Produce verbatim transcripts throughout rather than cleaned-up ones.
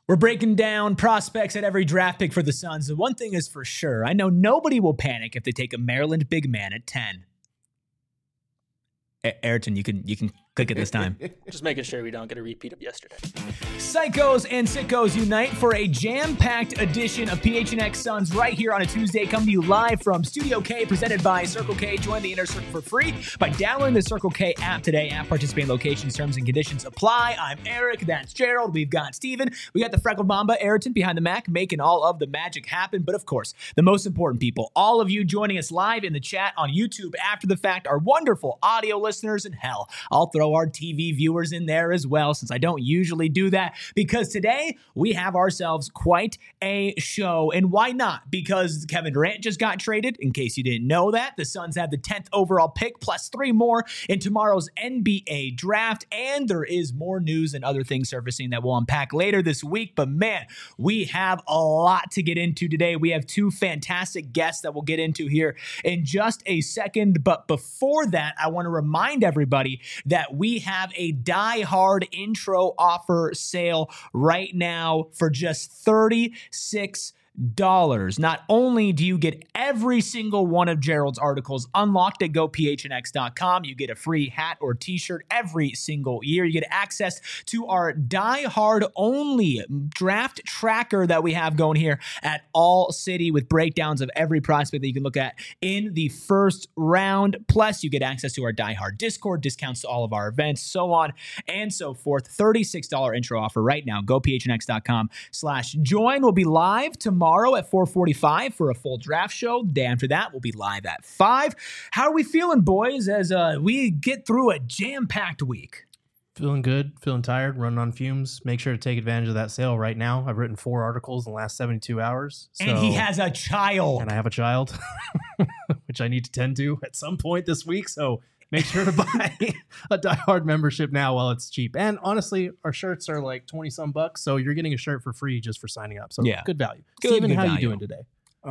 We're breaking down prospects at every draft pick for the Suns. The one thing is for sure, I know nobody will panic if they take a Maryland big man at ten. A- Ayrton, you can you can click it this time. Just making sure we don't get a repeat of yesterday. Psychos and sickos unite for a jam-packed edition of P H N X Suns right here on a Tuesday, coming to you live from Studio K, presented by Circle K. Join the Inner Circle for free by downloading the Circle K app today. App participating locations, terms, and conditions apply. I'm Eric. That's Gerald. We've got Steven. We got the Freckled Mamba, Ayrton, behind the Mac, making all of the magic happen. But of course, the most important people, all of you joining us live in the chat on YouTube after the fact, our wonderful audio listeners, and hell, I'll throw our T V viewers in there as well, since I don't usually do that, because today we have ourselves quite a show. And why not? Because Kevin Durant just got traded. In case you didn't know that, the Suns have the tenth overall pick plus three more in tomorrow's N B A draft. And there is more news and other things surfacing that we'll unpack later this week. But man, we have a lot to get into today. We have two fantastic guests that we'll get into here in just a second. But before that, I want to remind everybody that we have a Die Hard intro offer sale right now for just thirty-six dollars. Not only do you get every single one of Gerald's articles unlocked at go p h n x dot com, you get a free hat or t-shirt every single year. You get access to our Die Hard only draft tracker that we have going here at All City, with breakdowns of every prospect that you can look at in the first round. Plus, you get access to our Die Hard Discord, discounts to all of our events, so on and so forth. thirty-six dollars intro offer right now. go p h n x dot com slash join. We'll be live tomorrow Tomorrow at four forty-five for a full draft show. The day after that, we'll be live at five. How are we feeling, boys, as uh, we get through a jam-packed week? Feeling good, feeling tired, running on fumes. Make sure to take advantage of that sale right now. I've written four articles in the last seventy-two hours. So, and he has a child. And I have a child, which I need to tend to at some point this week. So make sure to buy a Die Hard membership now while it's cheap. And honestly, our shirts are like twenty some bucks. So you're getting a shirt for free just for signing up. So yeah, good value. Good, Steven, good how value. You doing today?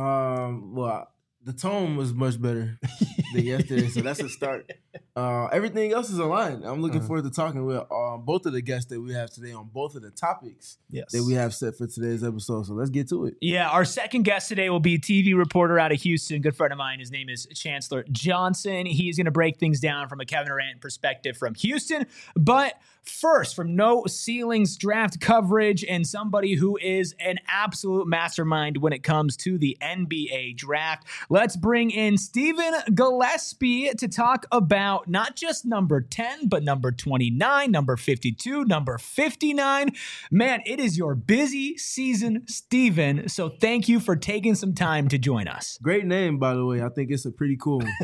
Um, well, the tone was much better than yesterday. So that's a start. Uh, everything else is aligned. I'm looking uh-huh. forward to talking with uh, both of the guests that we have today on both of the topics yes. that we have set for today's episode. So let's get to it. Yeah, our second guest today will be T V reporter out of Houston, good friend of mine. His name is Chancellor Johnson. He's going to break things down from a Kevin Durant perspective from Houston. But first, from No Ceilings draft coverage and somebody who is an absolute mastermind when it comes to the N B A draft, let's bring in Stephen Gillespie to talk about not just number ten, but number twenty-nine, number fifty-two, number fifty-nine. Man, it is your busy season, Stephen. So thank you for taking some time to join us. Great name, by the way. I think it's a pretty cool one.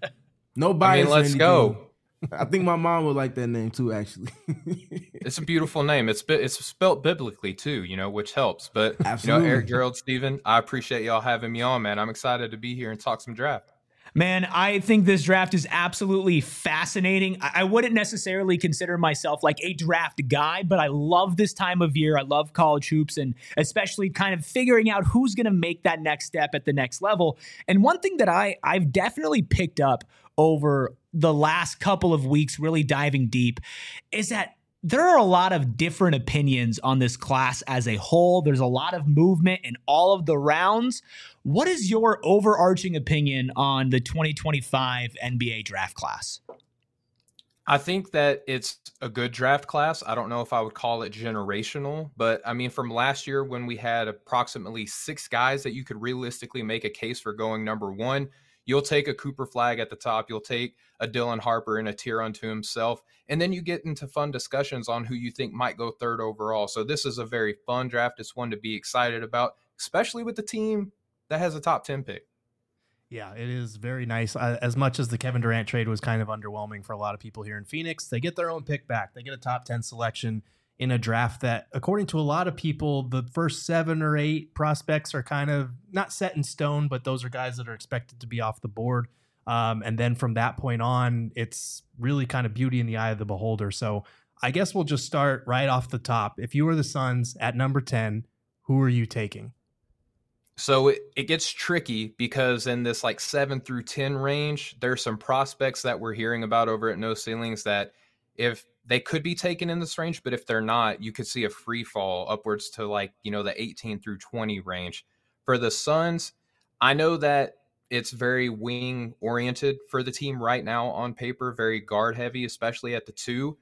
No bias. I mean, let's go. I think my mom would like that name too, actually. It's a beautiful name. It's it's spelt biblically too, you know, which helps. But Absolutely. You know, Eric, Gerald, Steven, I appreciate y'all having me on, man. I'm excited to be here and talk some draft. Man, I think this draft is absolutely fascinating. I wouldn't necessarily consider myself like a draft guy, but I love this time of year. I love college hoops, and especially kind of figuring out who's going to make that next step at the next level. And one thing that I, I've definitely picked up over the last couple of weeks, really diving deep, is that there are a lot of different opinions on this class as a whole. There's a lot of movement in all of the rounds. What is your overarching opinion on the twenty twenty-five N B A draft class? I think that it's a good draft class. I don't know if I would call it generational, but I mean, from last year when we had approximately six guys that you could realistically make a case for going number one, you'll take a Cooper Flagg at the top. You'll take a Dylan Harper in a tier unto himself. And then you get into fun discussions on who you think might go third overall. So this is a very fun draft. It's one to be excited about, especially with the team that has a top ten pick. Yeah, it is very nice. Uh, as much as the Kevin Durant trade was kind of underwhelming for a lot of people here in Phoenix, they get their own pick back. They get a top ten selection in a draft that, according to a lot of people, the first seven or eight prospects are kind of not set in stone, but those are guys that are expected to be off the board. Um, and then from that point on, it's really kind of beauty in the eye of the beholder. So I guess we'll just start right off the top. If you were the Suns at number ten, who are you taking? So it, it gets tricky because in this like seven through ten range, there's some prospects that we're hearing about over at No Ceilings that if they could be taken in this range, but if they're not, you could see a free fall upwards to like, you know, the eighteen through twenty range. For the Suns, I know that it's very wing oriented for the team right now on paper, very guard heavy, especially at the two.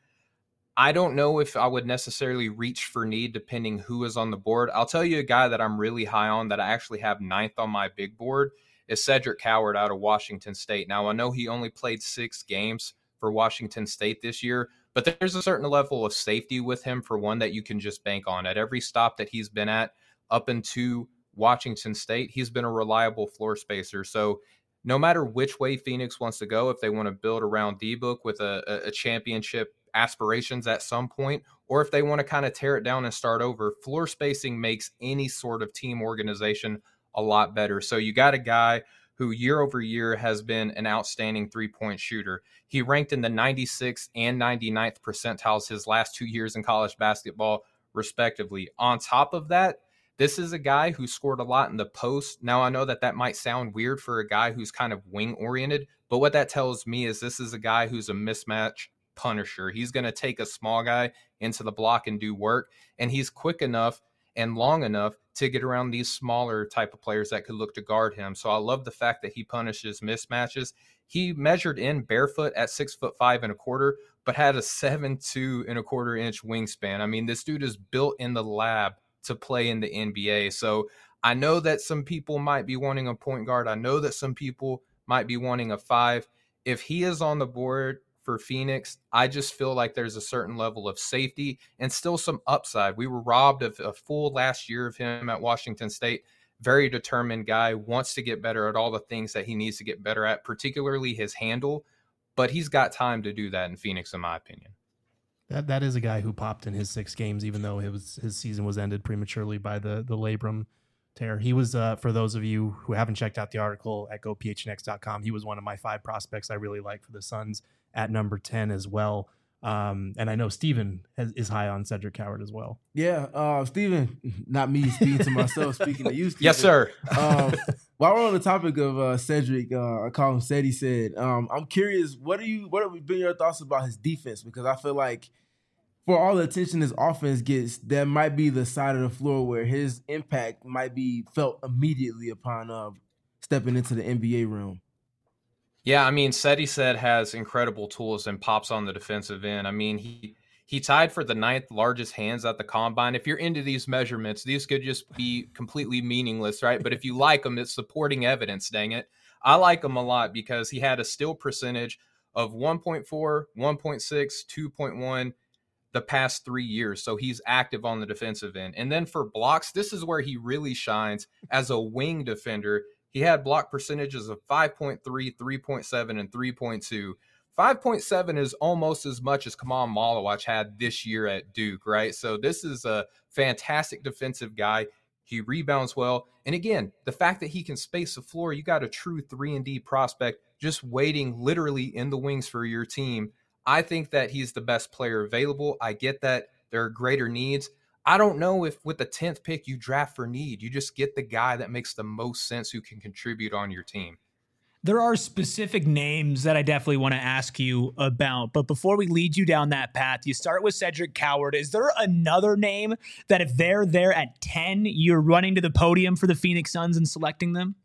I don't know if I would necessarily reach for need depending who is on the board. I'll tell you a guy that I'm really high on that I actually have ninth on my big board is Cedric Coward out of Washington State. Now, I know he only played six games for Washington State this year, but there's a certain level of safety with him, for one, that you can just bank on. At every stop that he's been at up into Washington State, he's been a reliable floor spacer. So no matter which way Phoenix wants to go, if they want to build around D-Book with a, a championship aspirations at some point, or if they want to kind of tear it down and start over, floor spacing makes any sort of team organization a lot better. So you got a guy who year over year has been an outstanding three-point shooter. He ranked in the ninety-sixth and ninety-ninth percentiles his last two years in college basketball, respectively. On top of that, this is a guy who scored a lot in the post. Now, I know that that might sound weird for a guy who's kind of wing-oriented, but what that tells me is this is a guy who's a mismatch punisher. He's going to take a small guy into the block and do work, and he's quick enough and long enough to get around these smaller type of players that could look to guard him. So I love the fact that he punishes mismatches. He measured in barefoot at six foot five and a quarter, but had a seven two and a quarter inch wingspan. I mean, this dude is built in the lab to play in the N B A. So I know that some people might be wanting a point guard. I know that some people might be wanting a five. If he is on the board for Phoenix, I just feel like there's a certain level of safety and still some upside. We were robbed of a full last year of him at Washington State. Very determined guy, wants to get better at all the things that he needs to get better at, particularly his handle, but he's got time to do that in Phoenix, in my opinion. That that is a guy who popped in his six games, even though it was his season was ended prematurely by the the labrum tear. He was, uh, for those of you who haven't checked out the article at go p h n x dot com, he was one of my five prospects I really like for the Suns at number ten as well. Um, and I know Steven has, is high on Cedric Coward as well. Yeah, uh, Steven, not me speaking to myself, speaking to you, Steven. Yes, sir. um, while we're on the topic of uh, Cedric, uh, I call him Ceddy said, um, I'm curious, what are you, what have been your thoughts about his defense? Because I feel like for all the attention his offense gets, that might be the side of the floor where his impact might be felt immediately upon uh, stepping into the N B A realm. Yeah, I mean, Seti said has incredible tools and pops on the defensive end. I mean, he he tied for the ninth largest hands at the combine. If you're into these measurements, these could just be completely meaningless, right? But if you like them, it's supporting evidence, dang it. I like him a lot because he had a steal percentage of one point four, one point six, two point one the past three years. So he's active on the defensive end. And then for blocks, this is where he really shines as a wing defender. He had block percentages of five point three, three point seven, and three point two. five point seven is almost as much as Kamal Malawach had this year at Duke, right? So this is a fantastic defensive guy. He rebounds well. And again, the fact that he can space the floor, you got a true three and D prospect just waiting literally in the wings for your team. I think that he's the best player available. I get that there are greater needs. I don't know if with the tenth pick you draft for need. You just get the guy that makes the most sense who can contribute on your team. There are specific names that I definitely want to ask you about. But before we lead you down that path, you start with Cedric Coward. Is there another name that if they're there at ten, you're running to the podium for the Phoenix Suns and selecting them?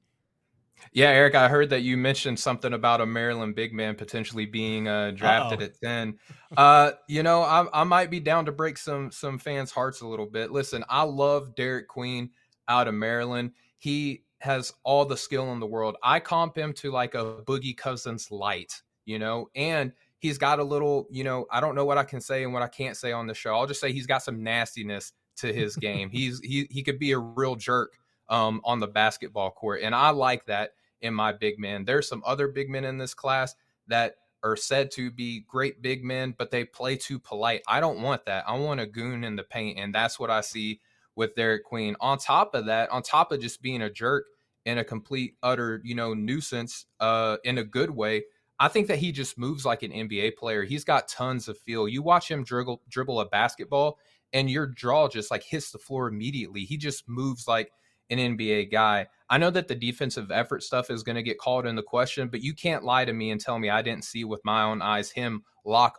Yeah, Eric, I heard that you mentioned something about a Maryland big man potentially being uh, drafted Uh-oh. at ten. Uh, you know, I, I might be down to break some some fans' hearts a little bit. Listen, I love Derek Queen out of Maryland. He has all the skill in the world. I comp him to like a Boogie Cousins light, you know, and he's got a little, you know, I don't know what I can say and what I can't say on the show. I'll just say he's got some nastiness to his game. He's he he could be a real jerk um, on the basketball court, and I like that in my big men. There's some other big men in this class that are said to be great big men, but they play too polite. I don't want that. I want a goon in the paint, and that's what I see with Derek Queen. On top of that, on top of just being a jerk and a complete, utter, you know, nuisance uh, in a good way, I think that he just moves like an N B A player. He's got tons of feel. You watch him dribble, dribble a basketball, and your jaw just like hits the floor immediately. He just moves like an N B A guy. I know that the defensive effort stuff is going to get called into question, but you can't lie to me and tell me I didn't see with my own eyes him lock up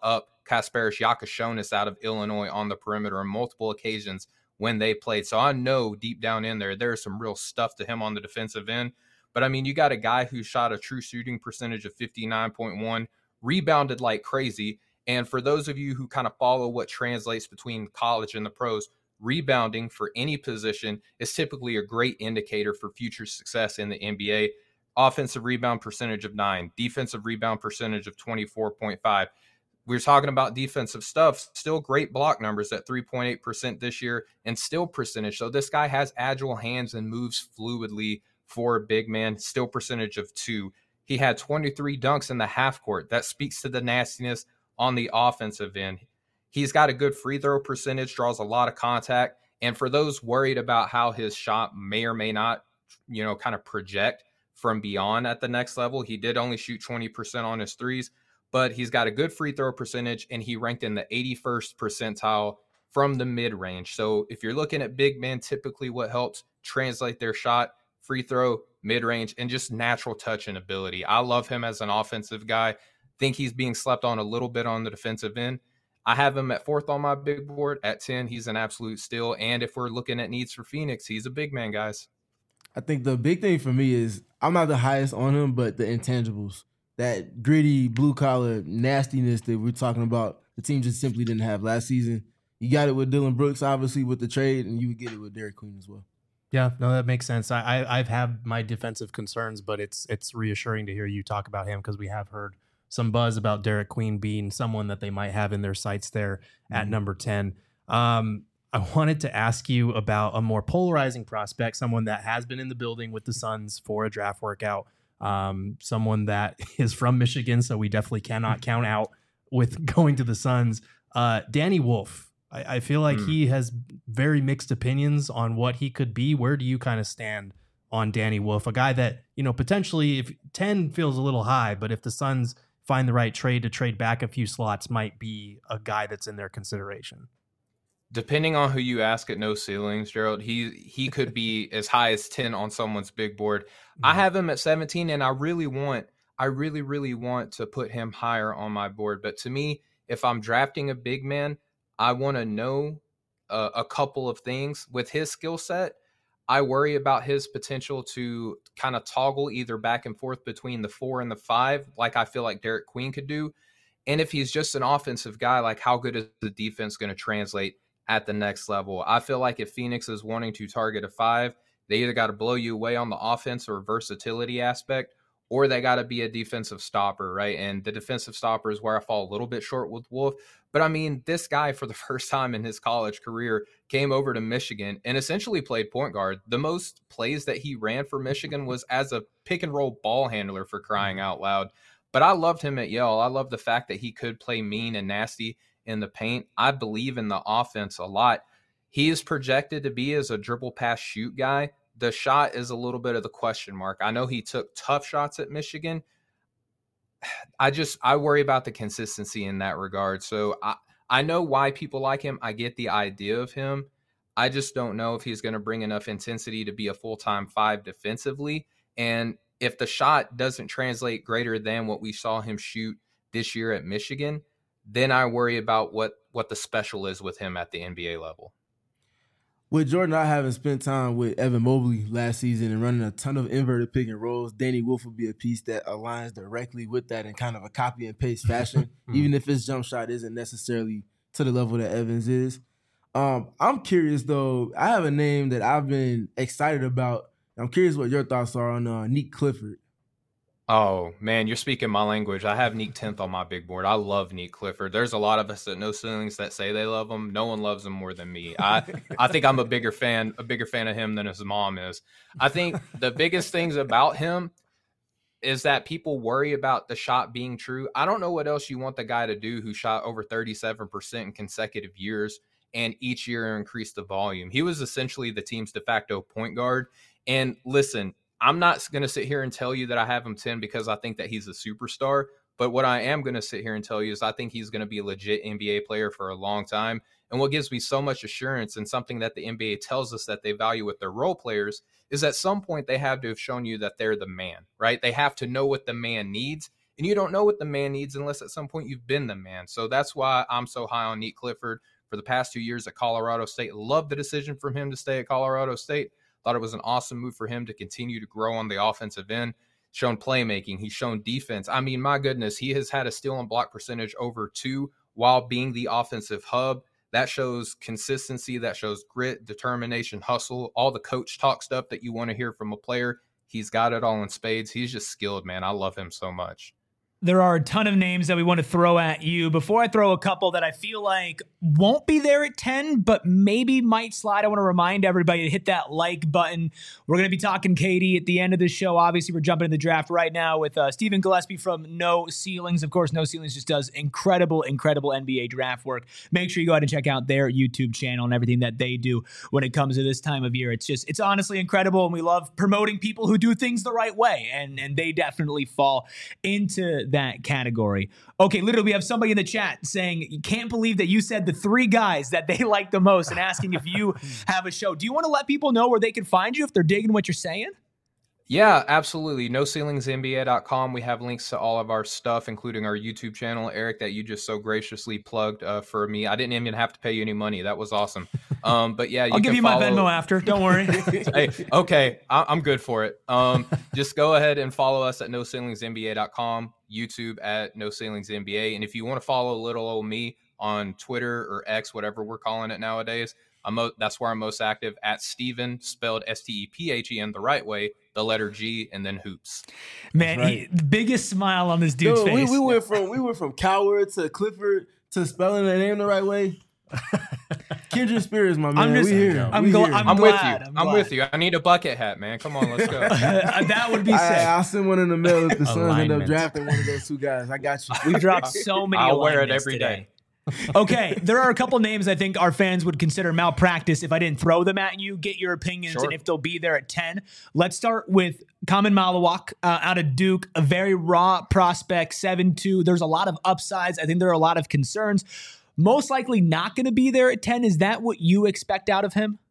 Kasparis Yakashonis out of Illinois on the perimeter on multiple occasions when they played. So I know deep down in there, there's some real stuff to him on the defensive end. But I mean, you got a guy who shot a true shooting percentage of fifty-nine point one, rebounded like crazy. And for those of you who kind of follow what translates between college and the pros, rebounding for any position is typically a great indicator for future success in the N B A. Offensive rebound percentage of nine, defensive rebound percentage of twenty-four point five. We're talking about defensive stuff, still great block numbers at three point eight percent this year and still percentage. So this guy has agile hands and moves fluidly for a big man, still percentage of two. He had twenty-three dunks in the half court. That speaks to the nastiness on the offensive end. He's got a good free throw percentage, draws a lot of contact. And for those worried about how his shot may or may not, you know, kind of project from beyond at the next level, he did only shoot twenty percent on his threes, but he's got a good free throw percentage and he ranked in the eighty-first percentile from the mid range. So if you're looking at big men, typically what helps translate their shot, free throw, mid range, and just natural touch and ability. I love him as an offensive guy. Think he's being slept on a little bit on the defensive end. I have him at fourth on my big board. At ten, he's an absolute steal. And if we're looking at needs for Phoenix, he's a big man, guys. I think the big thing for me is I'm not the highest on him, but the intangibles, that gritty, blue-collar nastiness that we're talking about, the team just simply didn't have last season. You got it with Dylan Brooks, obviously, with the trade, and you would get it with Derek Queen as well. Yeah, no, that makes sense. I, I I've had my defensive concerns, but it's it's reassuring to hear you talk about him because we have heard some buzz about Derek Queen being someone that they might have in their sights there at Mm-hmm. number ten. Um, I wanted to ask you about a more polarizing prospect, someone that has been in the building with the Suns for a draft workout, um, someone that is from Michigan, so we definitely cannot count out with going to the Suns. Uh, Danny Wolf. I, I feel like Hmm. he has very mixed opinions on what he could be. Where do you kind of stand on Danny Wolf, a guy that, you know, potentially if ten feels a little high, but if the Suns find the right trade to trade back a few slots, might be a guy that's in their consideration? Depending on who you ask at No Ceilings, Gerald, he he could be as high as ten on someone's big board. I have him at seventeen, and I really want, I really, really want to put him higher on my board. But to me, if I'm drafting a big man, I want to know a, a couple of things. With his skill set, I worry about his potential to kind of toggle either back and forth between the four and the five, like I feel like Derek Queen could do. And if he's just an offensive guy, like how good is the defense going to translate at the next level? I feel like if Phoenix is wanting to target a five, they either got to blow you away on the offense or versatility aspect, or they got to be a defensive stopper, right? And the defensive stopper is where I fall a little bit short with Wolf. But I mean, this guy for the first time in his college career came over to Michigan and essentially played point guard. The most plays that he ran for Michigan was as a pick and roll ball handler, for crying out loud. But I loved him at Yale. I love the fact that he could play mean and nasty in the paint. I believe in the offense a lot. He is projected to be as a dribble pass shoot guy. The shot is a little bit of the question mark. I know he took tough shots at Michigan. I just, I worry about the consistency in that regard. So I, I know why people like him. I get the idea of him. I just don't know if he's going to bring enough intensity to be a full-time five defensively. And if the shot doesn't translate greater than what we saw him shoot this year at Michigan, then I worry about what, what the special is with him at the N B A level. With Jordan not having spent time with Evan Mobley last season and running a ton of inverted pick and rolls, Danny Wolf will be a piece that aligns directly with that in kind of a copy and paste fashion, even if his jump shot isn't necessarily to the level that Evans is. Um, I'm curious, though. I have a name that I've been excited about. I'm curious what your thoughts are on uh, Nick Clifford. Oh, man, you're speaking my language. I have Nick tenth on my big board. I love Nick Clifford. There's a lot of us at No Ceilings that say they love him. No one loves him more than me. I I think I'm a bigger fan, a bigger fan of him than his mom is. I think the biggest things about him is that people worry about the shot being true. I don't know what else you want the guy to do who shot over thirty-seven percent in consecutive years and each year increased the volume. He was essentially the team's de facto point guard. And listen, I'm not going to sit here and tell you that I have him ten because I think that he's a superstar. But what I am going to sit here and tell you is I think he's going to be a legit N B A player for a long time. And what gives me so much assurance, and something that the N B A tells us that they value with their role players, is at some point they have to have shown you that they're the man, right? They have to know what the man needs. and you don't know what the man needs unless at some point you've been the man. So that's why I'm so high on Nate Clifford for the past two years at Colorado State. Loved the decision from him to stay at Colorado State. Thought it was an awesome move for him to continue to grow on the offensive end. Shown playmaking. He's shown defense. I mean, my goodness, he has had a steal and block percentage over two while being the offensive hub. That shows consistency. That shows grit, determination, hustle, all the coach talk stuff that you want to hear from a player. He's got it all in spades. He's just skilled, man. I love him so much. There are a ton of names that we want to throw at you. Before I throw a couple that I feel like won't be there at ten, but maybe might slide, I want to remind everybody to hit that like button. We're going to be talking Katie at the end of the show. Obviously, we're jumping in the draft right now with uh, Stephen Gillespie from No Ceilings. Of course, No Ceilings just does incredible, incredible N B A draft work. Make sure you go ahead and check out their YouTube channel and everything that they do when it comes to this time of year. It's just, it's honestly incredible, and we love promoting people who do things the right way, and, and they definitely fall into that category. Okay, literally, we have somebody in the chat saying, you can't believe that you said the three guys that they like the most, and asking if you have a show. Do you want to let people know where they can find you if they're digging what you're saying? Yeah, absolutely. no ceilings N B A dot com. We have links to all of our stuff, including our YouTube channel, Eric, that you just so graciously plugged uh, for me. I didn't even have to pay you any money. That was awesome. Um, but yeah, you I'll can give you follow... my Venmo after. Don't worry. Hey, okay, I- I'm good for it. Um, just go ahead and follow us at no ceilings N B A dot com, YouTube at no ceilings N B A. And if you want to follow little old me on Twitter or X, whatever we're calling it nowadays, I'm mo- that's where I'm most active, at Steven, spelled S T E P H E N the right way, the letter G, and then hoops. Man, right. he, the biggest smile on this dude's Dude, face. we, we went from we went from Coward to Clifford to spelling the name the right way. Kindred spirits, my man. I'm just, we here. I'm, we gl- here. I'm I'm glad. with you. I'm, I'm, glad. with you. I need a bucket hat, man. Come on, let's go. That would be sick. I, I'll send one in the mail if the Suns end up Alignment. drafting one of those two guys. I got you. We dropped so many I'll wear it alignments every today. day. Okay, there are a couple names I think our fans would consider malpractice if I didn't throw them at you. Get your opinions Sure. and if they'll be there at ten. Let's start with Kamen Malawak uh, out of Duke, a very raw prospect, seven two. There's a lot of upsides. I think there are a lot of concerns. Most likely not going to be there at ten. Is that what you expect out of him?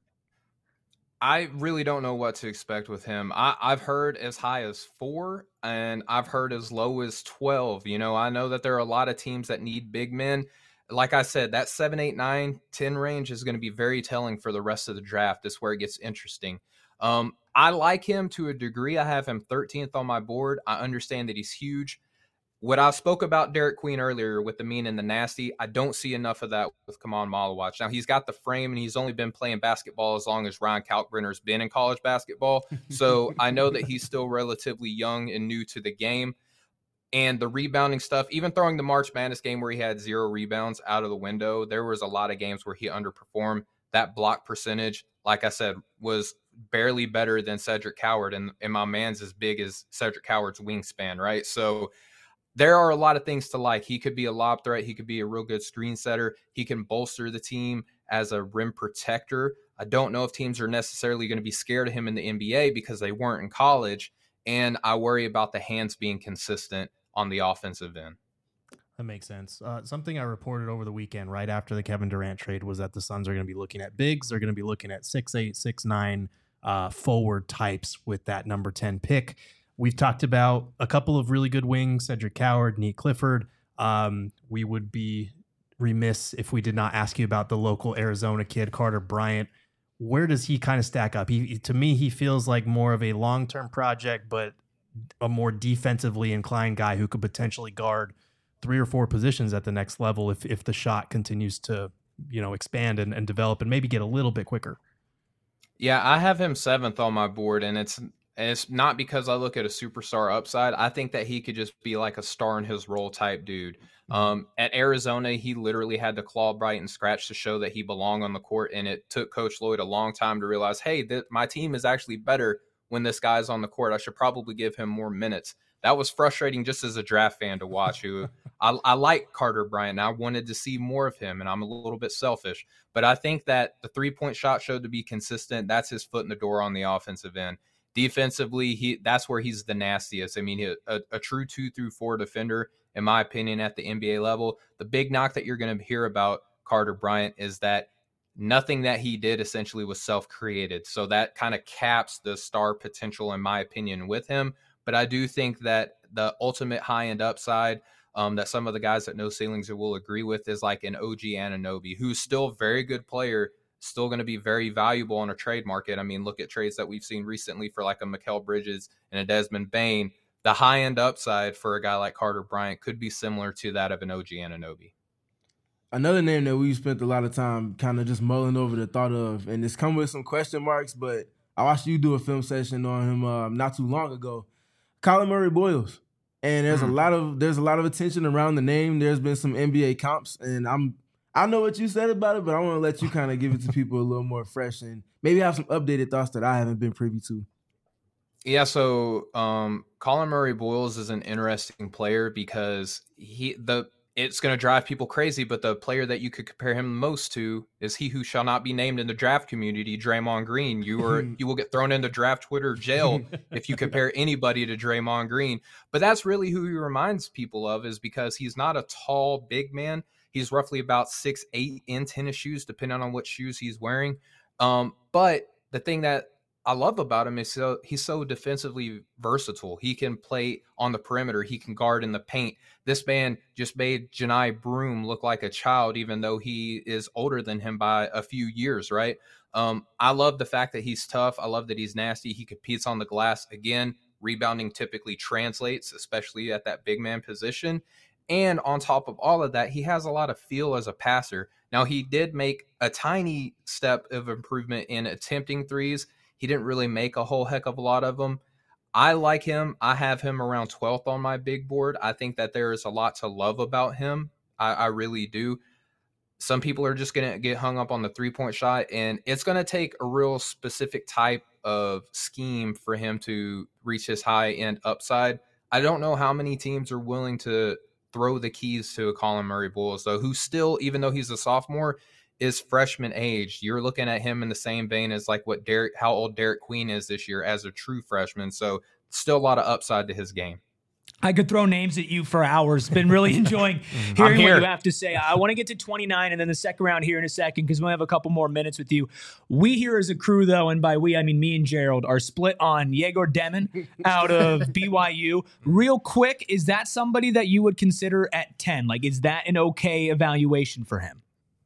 I really don't know what to expect with him. I, I've heard as high as four, and I've heard as low as twelve. You know, I know that there are a lot of teams that need big men. Like I said, that seven, eight, nine, ten range is going to be very telling for the rest of the draft. That's where it gets interesting. Um, I like him to a degree. I have him thirteenth on my board. I understand that he's huge. What I spoke about Derek Queen earlier with the mean and the nasty, I don't see enough of that with Kaman Malawak. Now, he's got the frame, and he's only been playing basketball as long as Ryan Kalkbrenner's been in college basketball. So I know that he's still relatively young and new to the game. And the rebounding stuff, even throwing the March Madness game where he had zero rebounds out of the window, there was a lot of games where he underperformed. That block percentage, like I said, was barely better than Cedric Coward, and, and my man's as big as Cedric Coward's wingspan, right? So there are a lot of things to like. He could be a lob threat. He could be a real good screen setter. He can bolster the team as a rim protector. I don't know if teams are necessarily going to be scared of him in the N B A because they weren't in college, and I worry about the hands being consistent on the offensive end. That makes sense. Uh, something I reported over the weekend right after the Kevin Durant trade was that the Suns are going to be looking at bigs. They're going to be looking at six eight, six nine uh, forward types with that number ten pick. We've talked about a couple of really good wings, Cedric Coward, Nate Clifford. Um, we would be remiss if we did not ask you about the local Arizona kid, Carter Bryant. Where does he kind of stack up? He, to me, he feels like more of a long-term project, but a more defensively inclined guy who could potentially guard three or four positions at the next level if if the shot continues to, you know, expand and, and develop and maybe get a little bit quicker. Yeah, I have him seventh on my board, and it's and it's not because I look at a superstar upside. I think that he could just be like a star in his role type dude. Um, at Arizona, he literally had to claw, bite, and scratch to show that he belonged on the court, and it took Coach Lloyd a long time to realize, hey, th- my team is actually better when this guy's on the court. I should probably give him more minutes. That was frustrating just as a draft fan to watch. Who I, I like Carter Bryant. And I wanted to see more of him, and I'm a little bit selfish. But I think that the three-point shot showed to be consistent. That's his foot in the door on the offensive end. Defensively, he that's where he's the nastiest. I mean, a, a true two through four defender, in my opinion, at the N B A level. The big knock that you're going to hear about Carter Bryant is that nothing that he did essentially was self-created. So that kind of caps the star potential, in my opinion, with him. But I do think that the ultimate high-end upside um, that some of the guys that know ceilings will agree with is like an O G Anunoby, who's still a very good player, still going to be very valuable on a trade market. I mean, look at trades that we've seen recently for like a Mikal Bridges and a Desmond Bane. The high-end upside for a guy like Carter Bryant could be similar to that of an O G Anunoby. Another name that we've spent a lot of time kind of just mulling over the thought of, and it's come with some question marks, but I watched you do a film session on him uh, not too long ago. Colin Murray Boyles. And there's mm. a lot of there's a lot of attention around the name. There's been some N B A comps, and I'm I know what you said about it, but I want to let you kind of give it to people a little more fresh and maybe have some updated thoughts that I haven't been privy to. Yeah, so um, Colin Murray Boyles is an interesting player because he the it's going to drive people crazy, but the player that you could compare him most to is he who shall not be named in the draft community, Draymond Green. You are you will get thrown into draft Twitter jail if you compare anybody to Draymond Green. But that's really who he reminds people of, is because he's not a tall, big man. He's roughly about six eight in tennis shoes, depending on what shoes he's wearing. Um, but the thing that I love about him is so he's so defensively versatile. He can play on the perimeter. He can guard in the paint. This man just made Janai Broom look like a child, even though he is older than him by a few years, right? Um, I love the fact that he's tough. I love that he's nasty. He competes on the glass. Again, rebounding typically translates, especially at that big man position. And on top of all of that, he has a lot of feel as a passer. Now, he did make a tiny step of improvement in attempting threes. He didn't really make a whole heck of a lot of them. I like him. I have him around twelfth on my big board. I think that there is a lot to love about him. I, I really do. Some people are just going to get hung up on the three-point shot, and it's going to take a real specific type of scheme for him to reach his high-end upside. I don't know how many teams are willing to throw the keys to a Colin Murray Boyles, though, who still, even though he's a sophomore, is freshman age. You're looking at him in the same vein as like what Derek, how old Derek Queen is this year as a true freshman. So still a lot of upside to his game. I could throw names at you for hours. Been really enjoying hearing what you have to say. I want to get to twenty-nine and then the second round here in a second because we'll have a couple more minutes with you. We here as a crew, though, and by we, I mean me and Gerald, are split on Yegor Demon out of B Y U. Real quick, is that somebody that you would consider at ten? Like, is that an okay evaluation for him?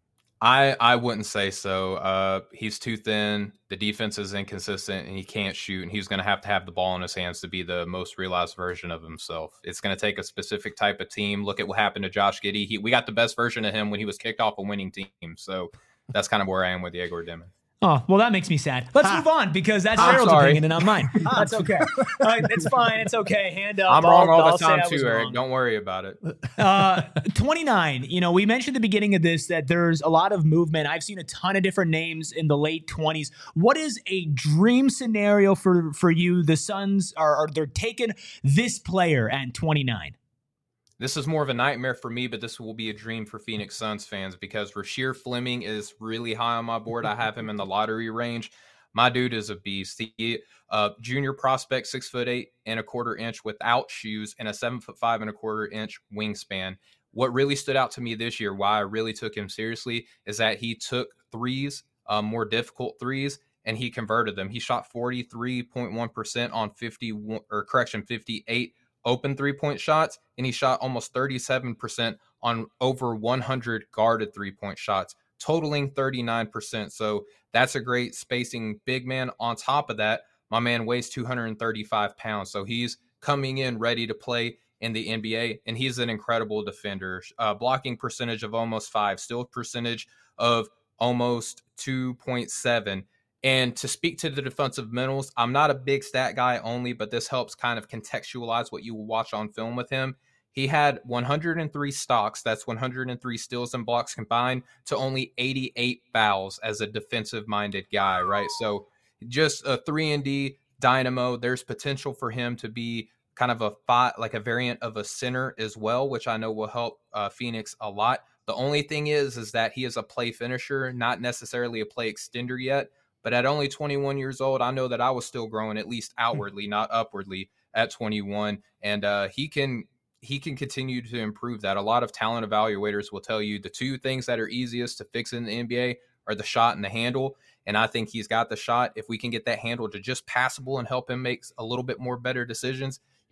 I, I wouldn't say so. Uh, he's too thin. The defense is inconsistent, and he can't shoot. And he's going to have to have the ball in his hands to be the most realized version of himself. It's going to take a specific type of team. Look at what happened to Josh Giddey. He, we got the best version of him when he was kicked off a winning team. So that's kind of where I am with Yegor Demon. Oh, well, that makes me sad. Let's move on because that's Gerald's opinion and not mine. That's okay. Uh, it's fine. It's okay. Hand up. I'm wrong I'll, all I'll the time too, Eric. Wrong. Don't worry about it. uh, twenty-nine. You know, we mentioned at the beginning of this that there's a lot of movement. I've seen a ton of different names in the late twenties. What is a dream scenario for, for you? The Suns are, are they're taking this player at twenty-nine. This is more of a nightmare for me, but this will be a dream for Phoenix Suns fans because Rasheer Fleming is really high on my board. I have him in the lottery range. My dude is a beast. He, uh, junior prospect, six foot eight and a quarter inch without shoes and a seven foot five and a quarter inch wingspan. What really stood out to me this year, why I really took him seriously, is that he took threes, uh, more difficult threes, and he converted them. He shot forty-three point one percent on fifty or correction, fifty-eight open three-point shots, and he shot almost thirty-seven percent on over one hundred guarded three-point shots, totaling thirty-nine percent. So that's a great spacing big man. On top of that, my man weighs two hundred thirty-five pounds, so he's coming in ready to play in the N B A, and he's an incredible defender. Uh, blocking percentage of almost five, steal percentage of almost two point seven. And to speak to the defensive mentals, I'm not a big stat guy only, but this helps kind of contextualize what you will watch on film with him. He had one hundred three stocks, that's one hundred three steals and blocks combined, to only eighty-eight fouls as a defensive-minded guy, right? So just a three and D dynamo. There's potential for him to be kind of a five, like a variant of a center as well, which I know will help uh, Phoenix a lot. The only thing is, is that he is a play finisher, not necessarily a play extender yet. But at only twenty-one years old, I know that I was still growing, at least outwardly, not upwardly, at twenty-one. And uh, he can he can continue to improve that. A lot of talent evaluators will tell you the two things that are easiest to fix in the N B A are the shot and the handle. And I think he's got the shot. If we can get that handle to just passable and help him make a little bit more better decisions,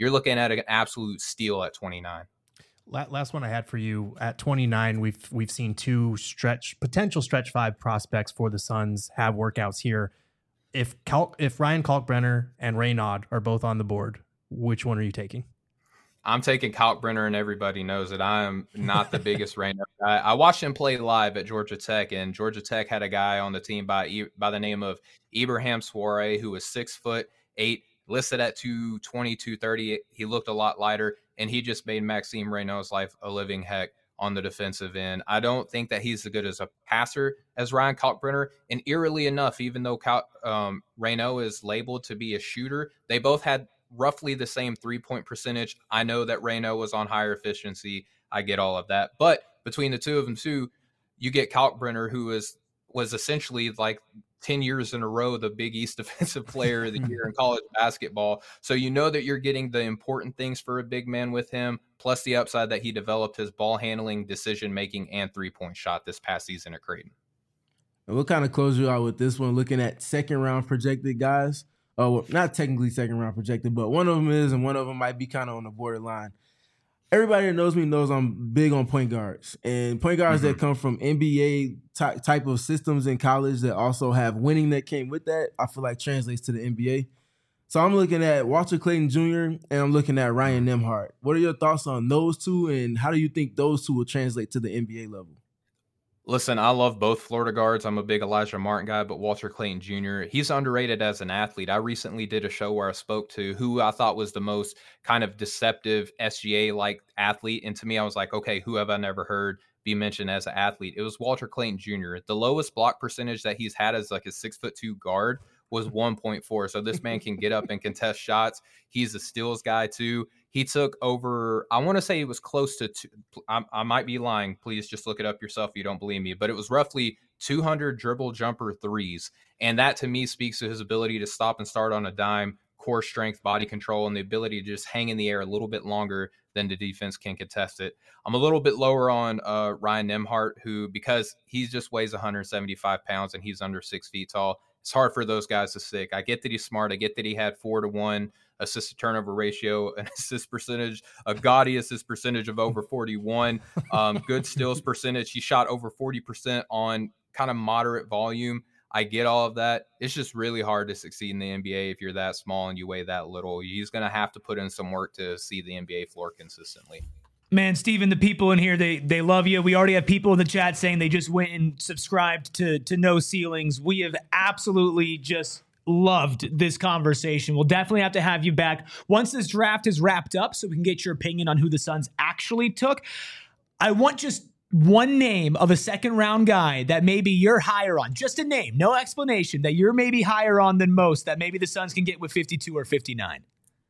you're looking at an absolute steal at twenty-nine. Last one I had for you at twenty-nine, we've we've seen two stretch potential stretch five prospects for the Suns have workouts here. If Kalk, if Ryan Kalkbrenner and Reynaud are both on the board, which one are you taking? I'm taking Kalkbrenner, and everybody knows it. I am not the biggest Reynaud guy. I watched him play live at Georgia Tech, and Georgia Tech had a guy on the team by by the name of Ibrahim Soare, who was six foot eight, listed at two twenty, two thirty. He looked a lot lighter, and he just made Maxime Reynaud's life a living heck on the defensive end. I don't think that he's as good as a passer as Ryan Kalkbrenner. And eerily enough, even though Cal, um, Reynaud is labeled to be a shooter, they both had roughly the same three-point percentage. I know that Reynaud was on higher efficiency. I get all of that. But between the two of them, too, you get Kalkbrenner, who is was essentially like ten years in a row the Big East Defensive Player of the Year in college basketball. So you know that you're getting the important things for a big man with him, plus the upside that he developed his ball handling, decision-making, and three-point shot this past season at Creighton. And we'll kind of close you out with this one, looking at second-round projected guys. Oh, well, not technically second-round projected, but one of them is, and one of them might be kind of on the borderline. Everybody that knows me knows I'm big on point guards, and point guards mm-hmm. that come from N B A ty- type of systems in college that also have winning that came with that, I feel like translates to the N B A. So I'm looking at Walter Clayton Junior and I'm looking at Ryan Nembhard. What are your thoughts on those two, and how do you think those two will translate to the N B A level? Listen, I love both Florida guards. I'm a big Elijah Martin guy, but Walter Clayton Junior, he's underrated as an athlete. I recently did a show where I spoke to who I thought was the most kind of deceptive S G A-like athlete. And to me, I was like, okay, who have I never heard be mentioned as an athlete? It was Walter Clayton Junior The lowest block percentage that he's had as like a six foot two guard was one point four. So this man can get up and contest shots. He's a steals guy too. He took over, I want to say it was close to, two, I, I might be lying. Please just look it up yourself if you don't believe me. But it was roughly two hundred dribble jumper threes. And that to me speaks to his ability to stop and start on a dime, core strength, body control, and the ability to just hang in the air a little bit longer than the defense can contest it. I'm a little bit lower on uh, Ryan Nembhard, who, because he just weighs one hundred seventy-five pounds and he's under six feet tall, it's hard for those guys to stick. I get that he's smart. I get that he had four to one assist to turnover ratio, an assist percentage, a gaudy assist percentage of over forty-one, um, good steals percentage. He shot over forty percent on kind of moderate volume. I get all of that. It's just really hard to succeed in the N B A if you're that small and you weigh that little. He's going to have to put in some work to see the N B A floor consistently. Man, Steven, the people in here, they they love you. We already have people in the chat saying they just went and subscribed to, to No Ceilings. We have absolutely just loved this conversation. We'll definitely have to have you back once this draft is wrapped up so we can get your opinion on who the Suns actually took. I want just one name of a second round guy that maybe you're higher on. Just a name, no explanation, that you're maybe higher on than most, that maybe the Suns can get with fifty-two or fifty-nine.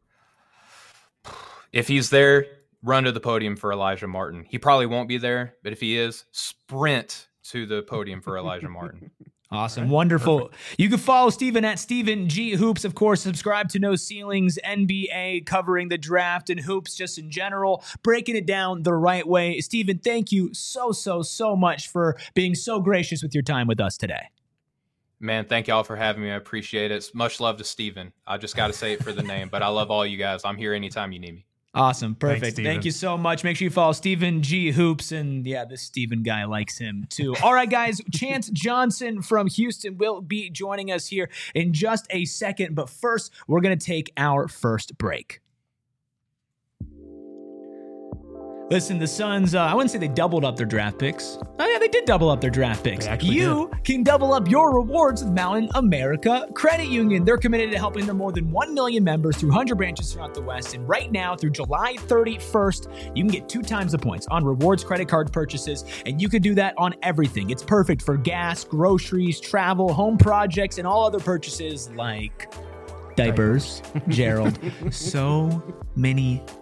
If he's there, run to the podium for Elijah Martin. He probably won't be there, but if he is, sprint to the podium for Elijah Martin. Awesome. Right. Wonderful. Perfect. You can follow Steven at Steven G Hoops. Of course, subscribe to No Ceilings N B A, covering the draft and hoops just in general, breaking it down the right way. Steven, thank you so, so, so much for being so gracious with your time with us today. Man, thank y'all for having me. I appreciate it. Much love to Steven. I just got to say it for the name, but I love all you guys. I'm here anytime you need me. Awesome. Perfect. Thanks, Thank you so much. Make sure you follow Steven G Hoops. And yeah, this Steven guy likes him too. All right, guys. Chance Johnson from Houston will be joining us here in just a second. But first, we're going to take our first break. Listen, the Suns, uh, I wouldn't say they doubled up their draft picks. Oh, yeah, they did double up their draft picks. You did. Can double up your rewards with Mountain America Credit Union. They're committed to helping their more than one million members through one hundred branches throughout the West. And right now, through July thirty-first, you can get two times the points on rewards credit card purchases. And you can do that on everything. It's perfect for gas, groceries, travel, home projects, and all other purchases like diapers, Gerald. So many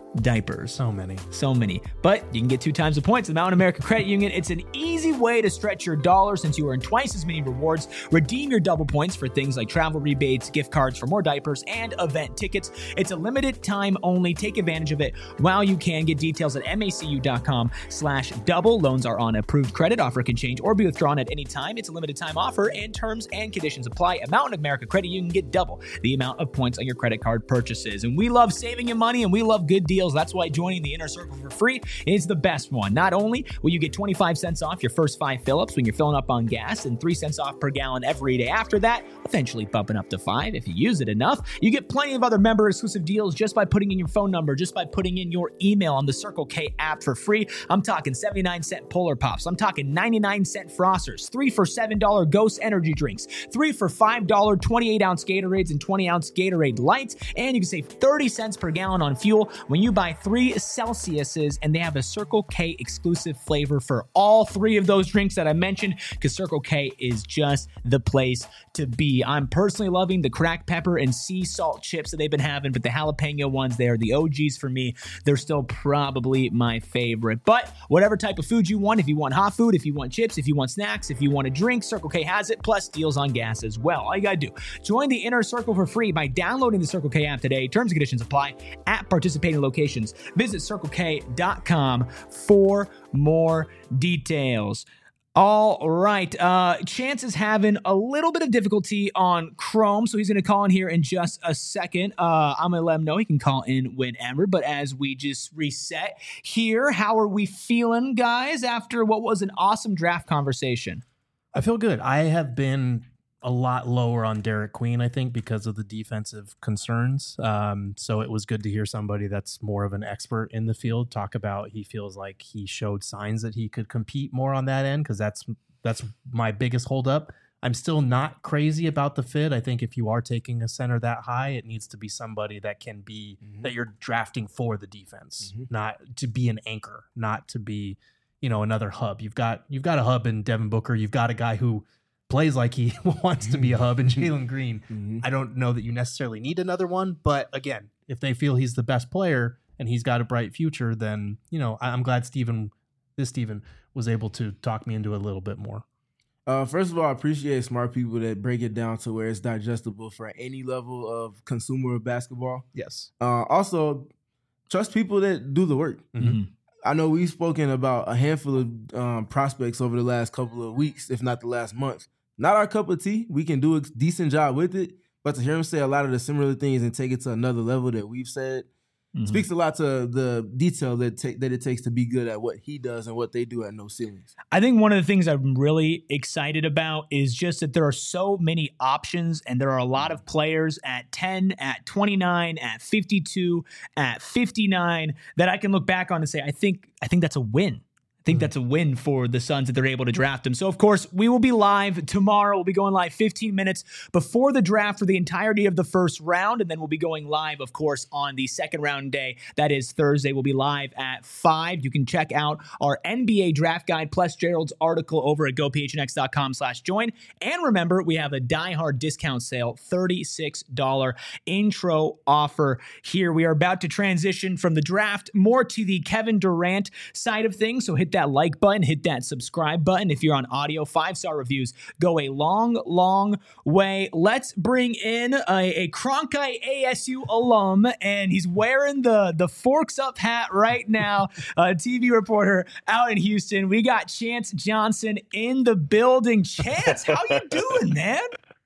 diapers. So many. So many. But you can get two times the points at Mountain America Credit Union. It's an easy way to stretch your dollar since you earn twice as many rewards. Redeem your double points for things like travel rebates, gift cards for more diapers, and event tickets. It's a limited time only. Take advantage of it while you can. Get details at macu.com slash double. Loans are on approved credit. Offer can change or be withdrawn at any time. It's a limited time offer and terms and conditions apply. At Mountain America Credit Union, get double the amount of points on your credit card purchases. And we love saving you money and we love good deals. That's why joining the Inner Circle for free is the best one. Not only will you get twenty-five cents off your first five fill-ups when you're filling up on gas and three cents off per gallon every day after that, eventually bumping up to five if you use it enough. You get plenty of other member-exclusive deals just by putting in your phone number, just by putting in your email on the Circle K app for free. I'm talking seventy-nine cent Polar Pops. I'm talking ninety-nine cent Frosters, three for seven dollar Ghost energy drinks, three for five dollar twenty-eight ounce Gatorades and twenty ounce Gatorade Lights, and you can save thirty cents per gallon on fuel when you buy three Celsiuses, and they have a Circle K exclusive flavor for all three of those drinks that I mentioned, because Circle K is just the place to be. I'm personally loving the cracked pepper and sea salt chips that they've been having, but the jalapeno ones, they are the O Gs for me. They're still probably my favorite. But whatever type of food you want, if you want hot food, if you want chips, if you want snacks, if you want a drink, Circle K has it, plus deals on gas as well. All you gotta do, join the Inner Circle for free by downloading the Circle K app today. Terms and conditions apply at participating locations. Visit circle k dot com for more details. All right. Uh, Chance is having a little bit of difficulty on Chrome, so he's going to call in here in just a second. Uh, I'm going to let him know he can call in whenever, but as we just reset here, how are we feeling, guys, after what was an awesome draft conversation? I feel good. I have been a lot lower on Derek Queen, I think, because of the defensive concerns. Um, so it was good to hear somebody that's more of an expert in the field talk about he feels like he showed signs that he could compete more on that end, because that's that's my biggest holdup. I'm still not crazy about the fit. I think if you are taking a center that high, it needs to be somebody that can be mm-hmm. that you're drafting for the defense, mm-hmm. not to be an anchor, not to be, you know, another hub. You've got you've got a hub in Devin Booker. You've got a guy who plays like he wants to be a hub in Jalen Green. Mm-hmm. I don't know that you necessarily need another one, but again, if they feel he's the best player and he's got a bright future, then, you know, I'm glad Steven, this Steven was able to talk me into it a little bit more. Uh, first of all, I appreciate smart people that break it down to where it's digestible for any level of consumer of basketball. Yes. Uh, also, trust people that do the work. Mm-hmm. I know we've spoken about a handful of um, prospects over the last couple of weeks, if not the last month. Not our cup of tea. We can do a decent job with it, but to hear him say a lot of the similar things and take it to another level that we've said mm-hmm. speaks a lot to the detail that ta- that it takes to be good at what he does and what they do at No Ceilings. I think one of the things I'm really excited about is just that there are so many options, and there are a lot of players at ten, at twenty-nine, at fifty-two, at fifty-nine that I can look back on and say, I think I think that's a win. I think that's a win for the Suns that they're able to draft him. So, of course, we will be live tomorrow. We'll be going live fifteen minutes before the draft for the entirety of the first round, and then we'll be going live, of course, on the second round day. That is Thursday. We'll be live at five. You can check out our N B A draft guide plus Gerald's article over at gophnx.com slash join. And remember, we have a diehard discount sale, thirty-six dollars intro offer here. We are about to transition from the draft more to the Kevin Durant side of things. So hit that like button, hit that subscribe button. If you're on audio, five-star reviews go a long, long way. Let's bring in a, a Cronkite A S U alum, and he's wearing the, the Forks Up hat right now, a T V reporter out in Houston. We got Chance Johnson in the building. Chance, how you doing, man?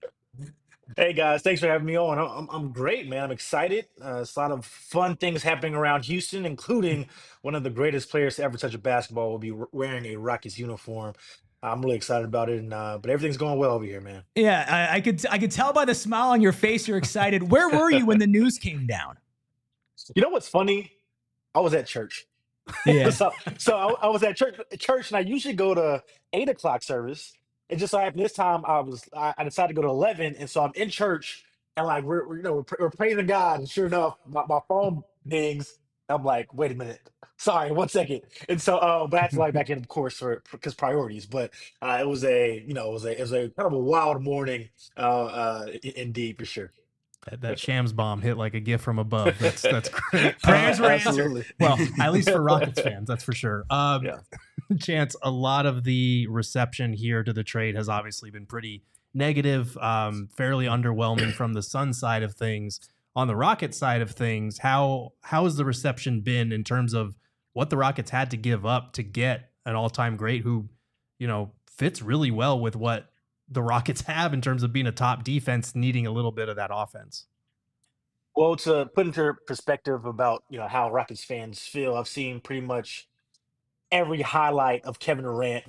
Hey guys, thanks for having me on. I'm I'm great, man. I'm excited. Uh, it's a lot of fun things happening around Houston, including one of the greatest players to ever touch a basketball will be wearing a Rockets uniform. I'm really excited about it, and uh, but everything's going well over here, man. Yeah, I, I could I could tell by the smile on your face you're excited. Where were you when the news came down? You know what's funny? I was at church. Yeah. so so I, I was at church, church, and I usually go to eight o'clock service. It just so happened this time I was I, I decided to go to eleven, and so I'm in church and like we're, we're you know we're, we're praising God, and sure enough my, my phone dings. I'm like, wait a minute, sorry, one second, and so uh, but I had to log back in, of course, for because priorities. But uh, it was a you know it was a it was a kind of a wild morning, uh, uh, indeed for sure. That, that Shams bomb hit like a gift from above. That's that's great. Prayers were Absolutely. answered. Well, at least for Rockets fans, that's for sure. Um, Yeah. Chance, a lot of the reception here to the trade has obviously been pretty negative, um, fairly underwhelming from the Sun side of things. On the Rocket side of things, how how has the reception been in terms of what the Rockets had to give up to get an all-time great who, you know, fits really well with what the Rockets have in terms of being a top defense, needing a little bit of that offense? Well, to put into perspective about you know how Rockets fans feel, I've seen pretty much every highlight of Kevin Durant.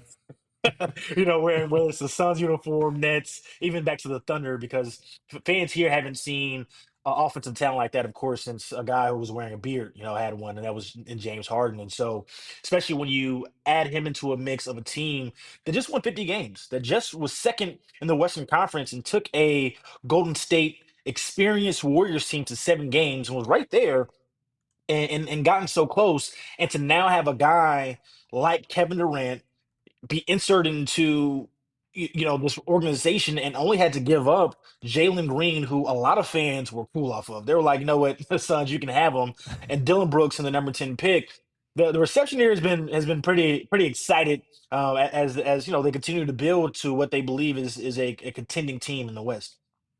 you know, wearing whether it's the Suns uniform, Nets, even back to the Thunder, because f- fans here haven't seen uh, offensive talent like that, of course, since a guy who was wearing a beard, you know, had one, and that was in James Harden. And so, especially when you add him into a mix of a team that just won fifty games, that just was second in the Western Conference and took a Golden State experienced Warriors team to seven games and was right there and, and, and gotten so close. And to now have a guy like Kevin Durant be inserted into y- you know this organization and only had to give up Jalen Green, who a lot of fans were cool off of. They were like, you know what, Suns, you can have him, and Dylan Brooks in the number ten pick. The, the reception here has been has been pretty pretty excited uh, a- as as you know they continue to build to what they believe is is a, a contending team in the West.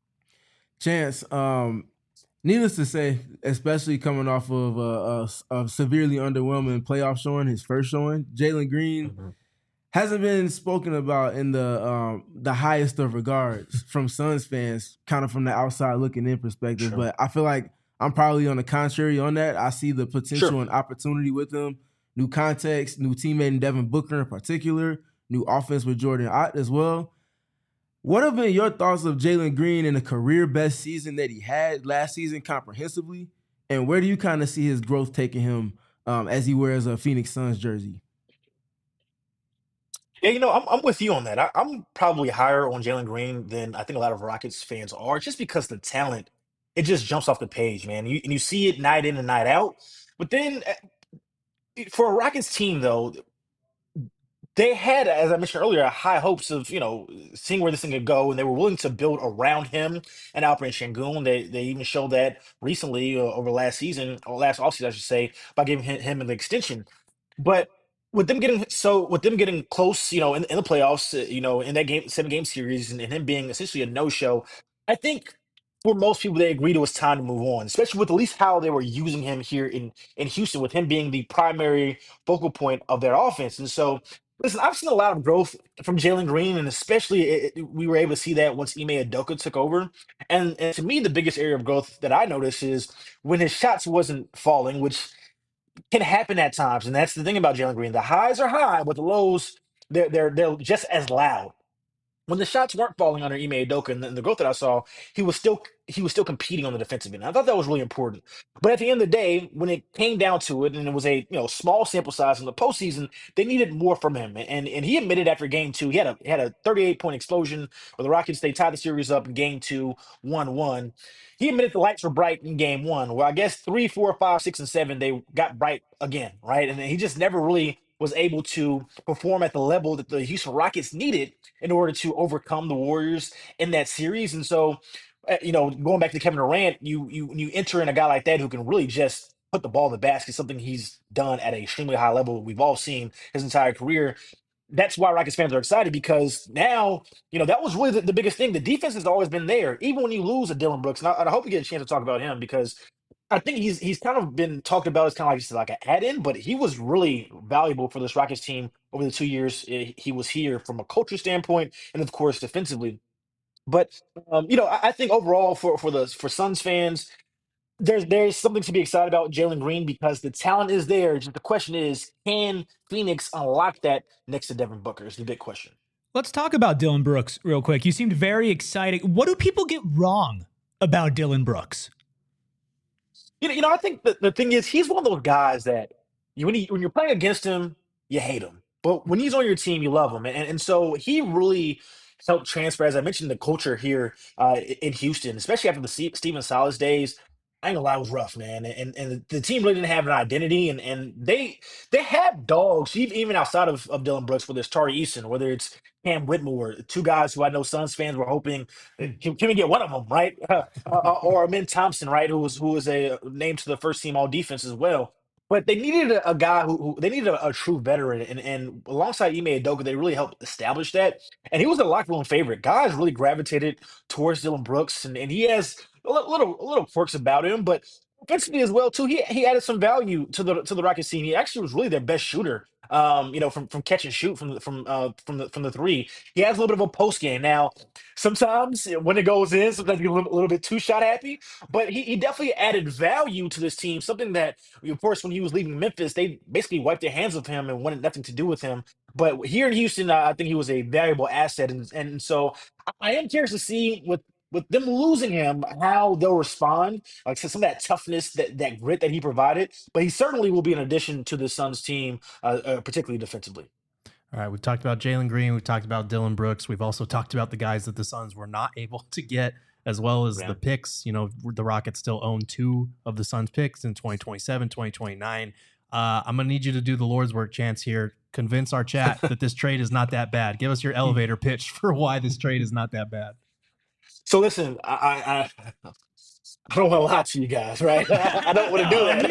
Chance, um, needless to say, especially coming off of a, a, a severely underwhelming playoff showing, his first showing, Jalen Green hasn't been spoken about in the um, the highest of regards from Suns fans, kind of from the outside looking in perspective. Sure. But I feel like I'm probably on the contrary on that. I see the potential Sure. and opportunity with him. New context, new teammate in Devin Booker in particular, new offense with Jordan Ott as well. What have been your thoughts of Jalen Green in the career best season that he had last season comprehensively? And where do you kind of see his growth taking him um, as he wears a Phoenix Suns jersey? Yeah, you know, I'm I'm with you on that. I, I'm probably higher on Jalen Green than I think a lot of Rockets fans are, just because the talent, it just jumps off the page, man. You and you see it night in and night out. But then uh, for a Rockets team, though, they had, as I mentioned earlier, high hopes of you know seeing where this thing could go, and they were willing to build around him and Alperen Şengün. They they even showed that recently uh, over last season or last offseason, I should say, by giving him, him an extension. But with them getting so with them getting close, you know, in, in the playoffs, uh, you know, in that game seven game series, and, and him being essentially a no show, I think for most people they agreed it was time to move on, especially with at least how they were using him here in in Houston, with him being the primary focal point of their offense. And so, listen, I've seen a lot of growth from Jalen Green, and especially it, it- we were able to see that once Ime Udoka took over. And, and to me, the biggest area of growth that I noticed is when his shots wasn't falling, which can happen at times, and that's the thing about Jalen Green. The highs are high, but the lows they're they're they're just as loud. When the shots weren't falling under Ime Udoka and the, the growth that I saw, he was still he was still competing on the defensive end. I thought that was really important. But at the end of the day, when it came down to it, and it was a you know small sample size in the postseason, they needed more from him. And and he admitted after game two, he had a he had a thirty-eight point explosion where the Rockets they tied the series up in game two, one one. He admitted the lights were bright in game one. Well, I guess three, four, five, six, and seven, they got bright again, right? And then he just never really was able to perform at the level that the Houston Rockets needed in order to overcome the Warriors in that series. And so, uh, you know, going back to Kevin Durant, you you you enter in a guy like that who can really just put the ball in the basket, something he's done at an extremely high level. We've all seen his entire career. That's why Rockets fans are excited, because now, you know, that was really the, the biggest thing. The defense has always been there, even when you lose a Dylan Brooks. And I, and I hope we get a chance to talk about him, because I think he's he's kind of been talked about as kind of like just like an add-in, but he was really valuable for this Rockets team over the two years eh, he was here, from a culture standpoint and of course defensively. But um, you know, I, I think overall for for the for Suns fans, there's there's something to be excited about Jalen Green, because the talent is there. Just the question is, can Phoenix unlock that next to Devin Booker? Is the big question. Let's talk about Dylan Brooks real quick. You seemed very excited. What do people get wrong about Dylan Brooks? You know, you know, I think the, the thing is, he's one of those guys that you when he, when you're playing against him, you hate him, but when he's on your team, you love him, and and so he really helped transfer, as I mentioned, the culture here uh, in Houston, especially after the Ste- Steven Silas days. I ain't gonna lie, it was rough, man. And and the team really didn't have an identity, and and they they had dogs even even outside of, of Dylan Brooks, whether it's Tari Eason, whether it's Cam Whitmore, two guys who I know Suns fans were hoping uh, can, can we get one of them, right? uh, uh, or Min Thompson, right, who was who was a named to the first team all defense as well. But they needed a, a guy who, who they needed a, a true veteran, and, and alongside Ime Udoka, they really helped establish that. And he was a locker room favorite. Guys really gravitated towards Dylan Brooks, and, and he has a li- little a little quirks about him, but offensively as well too. He he added some value to the to the Rockets team. He actually was really their best shooter. Um, you know, from from catch and shoot from the- from uh from the from the three. He has a little bit of a post game now. Sometimes when it goes in, sometimes he's a little, a little bit too shot happy, but he, he definitely added value to this team. Something that, of course, when he was leaving Memphis, they basically wiped their hands of him and wanted nothing to do with him. But here in Houston, uh, I think he was a valuable asset, and and so I I am curious to see with with them losing him how they'll respond. Like so some of that toughness, that that grit that he provided. But he certainly will be an addition to the Suns team, uh, uh, particularly defensively. All right, we've talked about Jalen Green. We've talked about Dylan Brooks. We've also talked about the guys that the Suns were not able to get, as well as Yeah. the picks. You know, the Rockets still own two of the Suns picks in twenty twenty-seven, twenty twenty-nine. Uh, I'm going to need you to do the Lord's work, Chance, here. Convince our chat that this trade is not that bad. Give us your elevator pitch for why this trade is not that bad. So listen, I I, I I don't want to lie to you guys, right? I don't want to do that,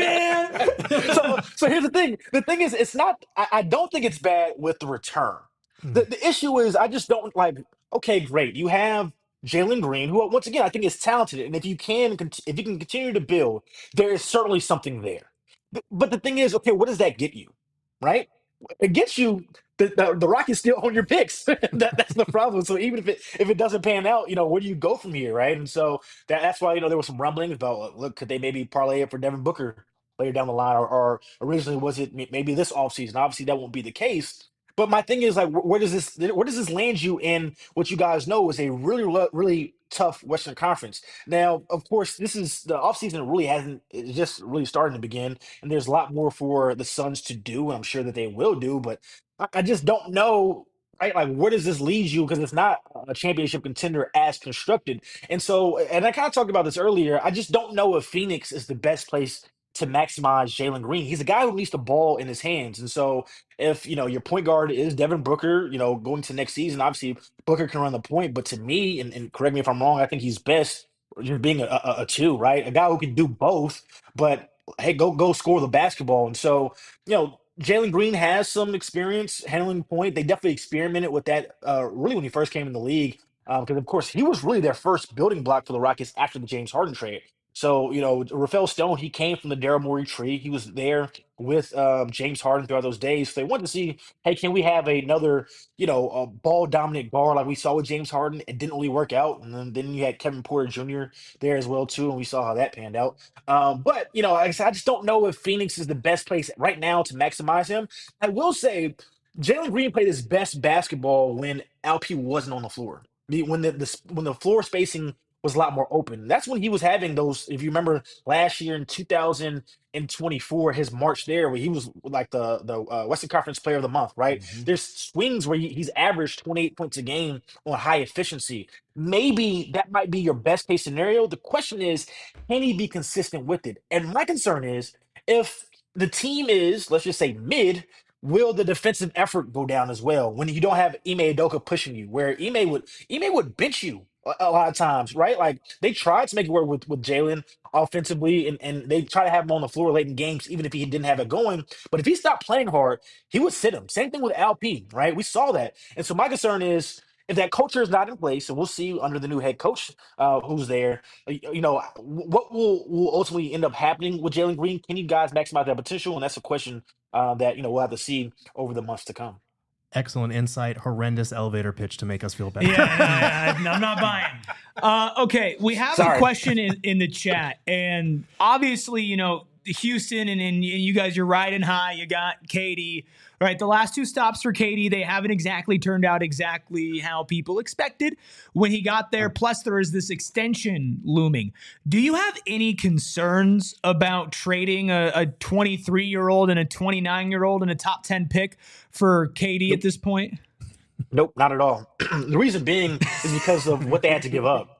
man. so so here's the thing. The thing is, it's not. I, I don't think it's bad with the return. The the issue is, I just don't like. Okay, great. You have Jalen Green, who once again I think is talented, and if you can, cont- if you can continue to build, there is certainly something there. But but the thing is, okay, what does that get you, right? It gets you the, the, the Rockets still own your picks. that, that's the problem. So even if it if it doesn't pan out, you know, where do you go from here, right? And so that, that's why you know there was some rumblings about look, could they maybe parlay it for Devin Booker later down the line, or, or originally was it may- maybe this offseason? Obviously, that won't be the case. But my thing is like, wh- where does this where does this land you in what you guys know is a really lo- really tough Western Conference? Now, of course, this is the offseason really hasn't it's just really starting to begin, and there's a lot more for the Suns to do, and I'm sure that they will do, but I, I just don't know. Right, like where does this lead you? Because it's not a championship contender as constructed, and so, and I kind of talked about this earlier. I just don't know if Phoenix is the best place to maximize Jalen Green. He's a guy who needs the ball in his hands, and so if you know your point guard is Devin Booker, you know going to next season, obviously Booker can run the point, but to me, and, and correct me if I'm wrong, I think he's best just being a, a, a two, right? A guy who can do both, but hey, go go score the basketball, and so you know. Jalen Green has some experience handling the point. They definitely experimented with that uh, really when he first came in the league. Because, of course, he was really their first building block for the Rockets after the James Harden trade. So, you know, Rafael Stone, he came from the Daryl Morey tree. He was there with um, James Harden throughout those days. So they wanted to see, hey, can we have another, you know, a ball dominant guard like we saw with James Harden? It didn't really work out. And then, then you had Kevin Porter Junior there as well, too. And we saw how that panned out. Um, but, you know, like I said, I just don't know if Phoenix is the best place right now to maximize him. I will say Jalen Green played his best basketball when L P wasn't on the floor. The- When the, the when the floor spacing was a lot more open. That's when he was having those. If you remember last year in two thousand twenty-four, his March there, where he was like the the uh, Western Conference Player of the Month. Right? Mhm. There's swings where he, he's averaged twenty-eight points a game on high efficiency. Maybe that might be your best case scenario. The question is, can he be consistent with it? And my concern is if the team is, let's just say, mid. Will the defensive effort go down as well when you don't have Ime Udoka pushing you? Where Ime would Ime would bench you a, a lot of times, right? Like they tried to make it work with with Jalen offensively, and and they try to have him on the floor late in games, even if he didn't have it going. But if he stopped playing hard, he would sit him. Same thing with L P, right? We saw that, and so my concern is. If that culture is not in place, and we'll see under the new head coach uh, who's there, uh, you know, what will will ultimately end up happening with Jalen Green? Can you guys maximize that potential? And that's a question uh, that you know we'll have to see over the months to come. Excellent insight. Horrendous elevator pitch to make us feel better. Yeah, yeah, yeah, I'm not buying. Uh, okay, we have Sorry. a question in, in the chat, and obviously, you know, Houston and, and, and you guys, you're riding high. You got Katie, right? The last two stops for Katie, they haven't exactly turned out exactly how people expected when he got there. Plus, there is this extension looming. Do you have any concerns about trading a, a twenty-three-year-old and a twenty-nine-year-old and a top ten pick for Katie at this point? Nope, not at all. The reason being is because of what they had to give up.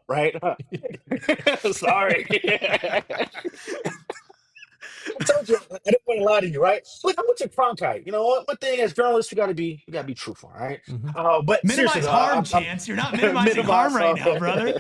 right? Sorry. I told you I didn't want to lie to you, right? Look, I'm with your Cronkite. You know what? One thing as journalists, we got to be, we got to be truthful, right? Mhm. Uh, but Minimize seriously, though, harm, I- I'm- Chance. You're not minimizing harm right now, brother.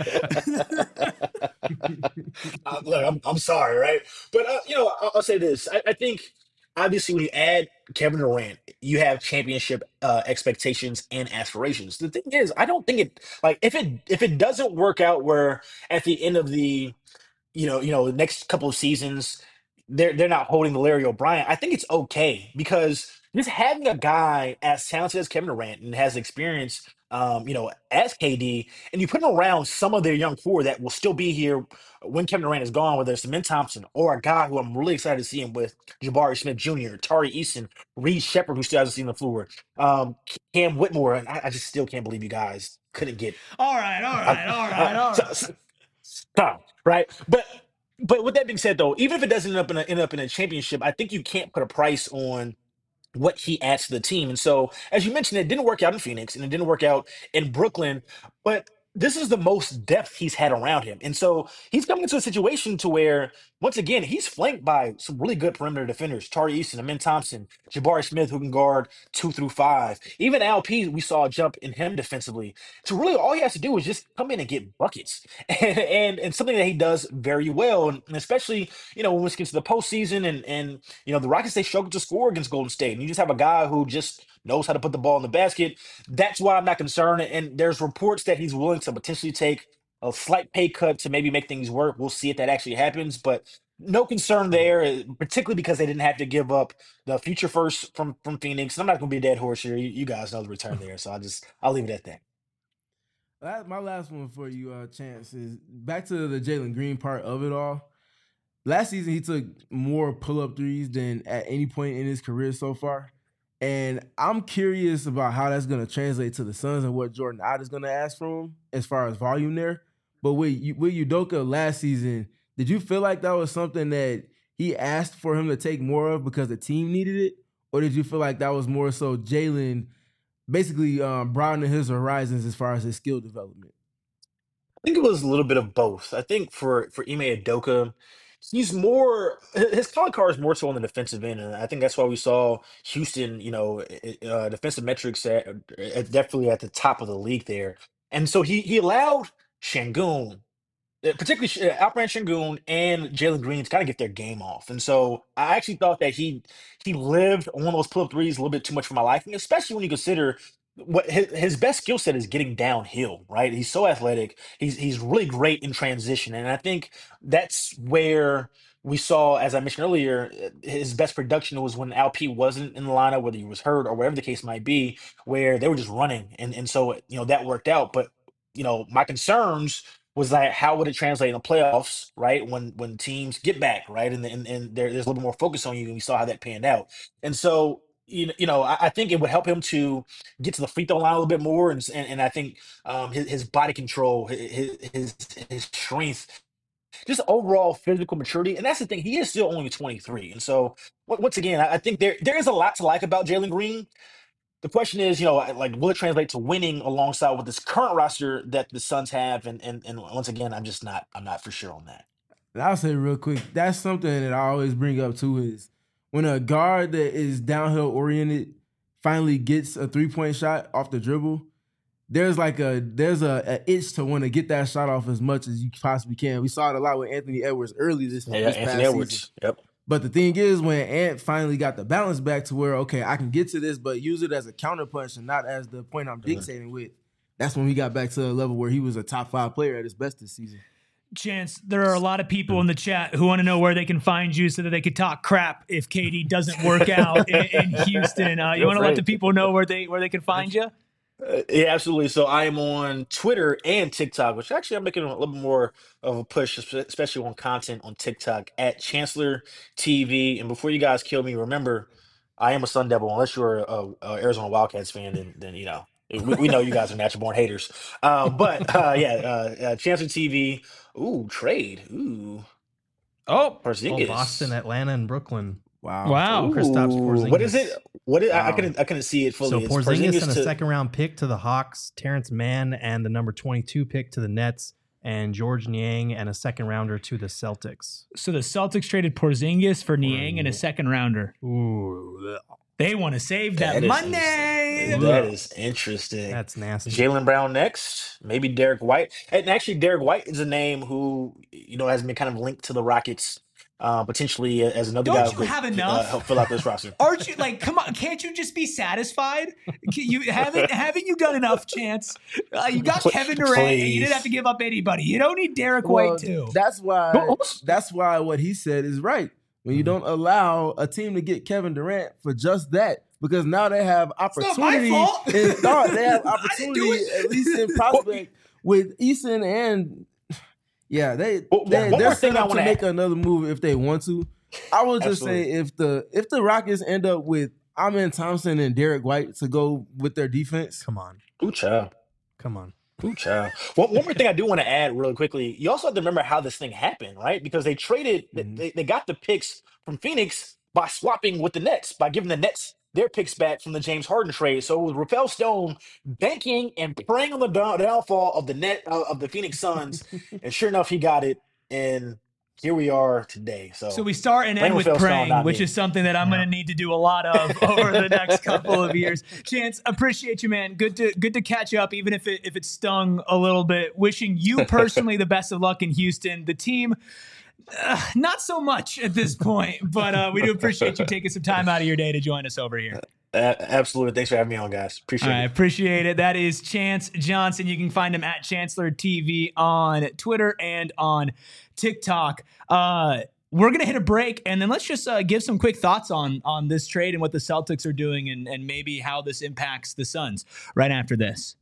Uh, look, I'm, I'm sorry, right? But uh, you know, I'll, I'll say this: I, I think obviously when you add Kevin Durant, you have championship uh, expectations and aspirations. The thing is, I don't think it like if it if it doesn't work out where at the end of the you know, you know, the next couple of seasons, they're they're not holding the Larry O'Brien. I think it's okay because just having a guy as talented as Kevin Durant and has experience, um, you know, as K D, and you put him around some of their young core that will still be here when Kevin Durant is gone, whether it's Min Thompson or a guy who I'm really excited to see him with, Jabari Smith Junior, Tari Eason, Reed Shepard, who still hasn't seen the floor, um, Cam Whitmore, and I, I just still can't believe you guys couldn't get All right, all I- right, all right, all so- right. so- Stop, right? But but with that being said, though, even if it doesn't end up in a, end up in a championship, I think you can't put a price on what he adds to the team. And so, as you mentioned, it didn't work out in Phoenix and it didn't work out in Brooklyn, but this is the most depth he's had around him. And so he's coming into a situation to where, once again, he's flanked by some really good perimeter defenders. Tari Eason, Amin Thompson, Jabari Smith, who can guard two through five. Even Al P, we saw a jump in him defensively. So really all he has to do is just come in and get buckets. And and, and something that he does very well. And especially, you know, when we get to the postseason and and you know, the Rockets, they struggled to score against Golden State. And you just have a guy who just knows how to put the ball in the basket. That's why I'm not concerned. And there's reports that he's willing to potentially take a slight pay cut to maybe make things work. We'll see if that actually happens. But no concern there, eh, particularly because they didn't have to give up the future first from from Phoenix. And I'm not going to be a dead horse here. You, you guys know the return there. So I'll just, I'll leave it at that. That, my last one for you, uh, Chance, is back to the Jalen Green part of it all. Last season, he took more pull-up threes than at any point in his career so far. And I'm curious about how that's going to translate to the Suns and what Jordan Ott is going to ask from him as far as volume there. But with, with Udoka last season, did you feel like that was something that he asked for him to take more of because the team needed it? Or did you feel like that was more so Jalen basically um, broadening his horizons as far as his skill development? I think it was a little bit of both. I think for for Ime Udoka, he's more his color card is more so on the defensive end, and I think that's why we saw Houston, you know, i- i- uh, defensive metrics at, at definitely at the top of the league there. And so he he allowed Şengün, uh, particularly Sh- uh, Alperen Şengün and Jalen Green to kind of get their game off. And so I actually thought that he he lived on those pull up threes a little bit too much for my liking, especially when you consider what his, his best skill set is getting downhill, right? He's so athletic. He's he's really great in transition, and I think that's where we saw, as I mentioned earlier, uh, his best production was when L P wasn't in the lineup, whether he was hurt or whatever the case might be, where they were just running, and and so you know that worked out. But you know my concerns was that how would it translate in the playoffs, right? When when teams get back, right, and and, and there, there's a little bit more focus on you, and we saw how that panned out. And so you know, you know, I, I think it would help him to get to the free throw line a little bit more, and s- and, and I think um, his, his body control, hi- his his his strength, just overall physical maturity, and that's the thing. He is still only twenty-three, and so on- once again, I I think there there is a lot to like about Jalen Green. The question is, you know, I- like, will it translate to winning alongside with this current roster that the Suns have? And and and once again, I'm just not I'm not for sure on that. And I'll say real quick, that's something that I always bring up too is when a guard that is downhill oriented finally gets a three-point shot off the dribble, there's like a there's a, a itch to want to get that shot off as much as you possibly can. We saw it a lot with Anthony Edwards early this, Yeah, this Anthony past Edwards. season. Yep. But the thing is, when Ant finally got the balance back to where, okay, I can get to this, but use it as a counterpunch and not as the point I'm dictating with, that's when we got back to a level where he was a top five player at his best this season. Chance, there are a lot of people in the chat who want to know where they can find you so that they could talk crap if K D doesn't work out in, in Houston. Uh, you Feel want to let free. the people know where they where they can find you? Uh, yeah, absolutely. So I am on Twitter and TikTok, which actually I'm making a little bit more of a push, espe- especially on content on TikTok at Chancellor T V. And before you guys kill me, remember, I am a Sun Devil. Unless you're a, a Arizona Wildcats fan, then then you know we, we know you guys are natural born haters. Uh, but uh, yeah, uh, uh, Chancellor T V. Ooh, trade. Ooh, Oh, Oh, Porzingis. Boston, Atlanta, and Brooklyn. Wow. Wow. Kristaps Ooh, what is Porzingis. it? What is, I, I Wow. couldn't I couldn't see it fully. So It's Porzingis and a to- second round pick to the Hawks, Terrence Mann and the number twenty-two pick to the Nets, and George Niang and a second rounder to the Celtics. So the Celtics traded Porzingis for Niang and a second rounder. Ooh, they want to save that, that is money. That is interesting. That's nasty. Jaylen Brown next, maybe Derek White. And actually, Derek White is a name who, you know, has been kind of linked to the Rockets, uh, potentially as another Don't guy you who could have uh, enough? help fill out this roster. Aren't you like? Come on, can't you just be satisfied? Can you haven't haven't you done enough, Chance? Uh, you got Kevin Durant, and you didn't have to give up anybody. You don't need Derek Well, White too. That's why. Well, That's why what he said is right. When you don't allow a team to get Kevin Durant for just that, because now they have not my opportunity fault. in thought. They have I didn't do opportunity it. at least in prospect with Eason and yeah, they, Well, they one they're more thing set I up to wanna make add. another move if they want to. I will just Absolutely. say if the if the Rockets end up with Amen Thompson and Derek White to go with their defense, Come on. Ooh, child. Come on. Ooh, child. One, one more thing I do want to add really quickly. You also have to remember how this thing happened, right? Because they traded, Mhm. they, they got the picks from Phoenix by swapping with the Nets, by giving the Nets their picks back from the James Harden trade. So it was Rafael Stone banking and praying on the down, downfall of the net uh, of the Phoenix Suns, and sure enough, he got it. And here we are today. So, So we start and Blame end with Rafael Stone, praying, not which me. is something that I'm Yeah. going to need to do a lot of over the next couple of years. Chance, appreciate you, man. Good to good to catch up, even if it if it stung a little bit. Wishing you personally the best of luck in Houston. The team, uh, not so much at this point, but uh, we do appreciate you taking some time out of your day to join us over here. a- absolutely. Thanks for having me on, guys. Appreciate I it. appreciate it. That is Chance Johnson. You can find him at Chancellor T V on Twitter and on TikTok. Uh, we're going to hit a break, and then let's just uh, give some quick thoughts on on this trade and what the Celtics are doing and, and maybe how this impacts the Suns right after this.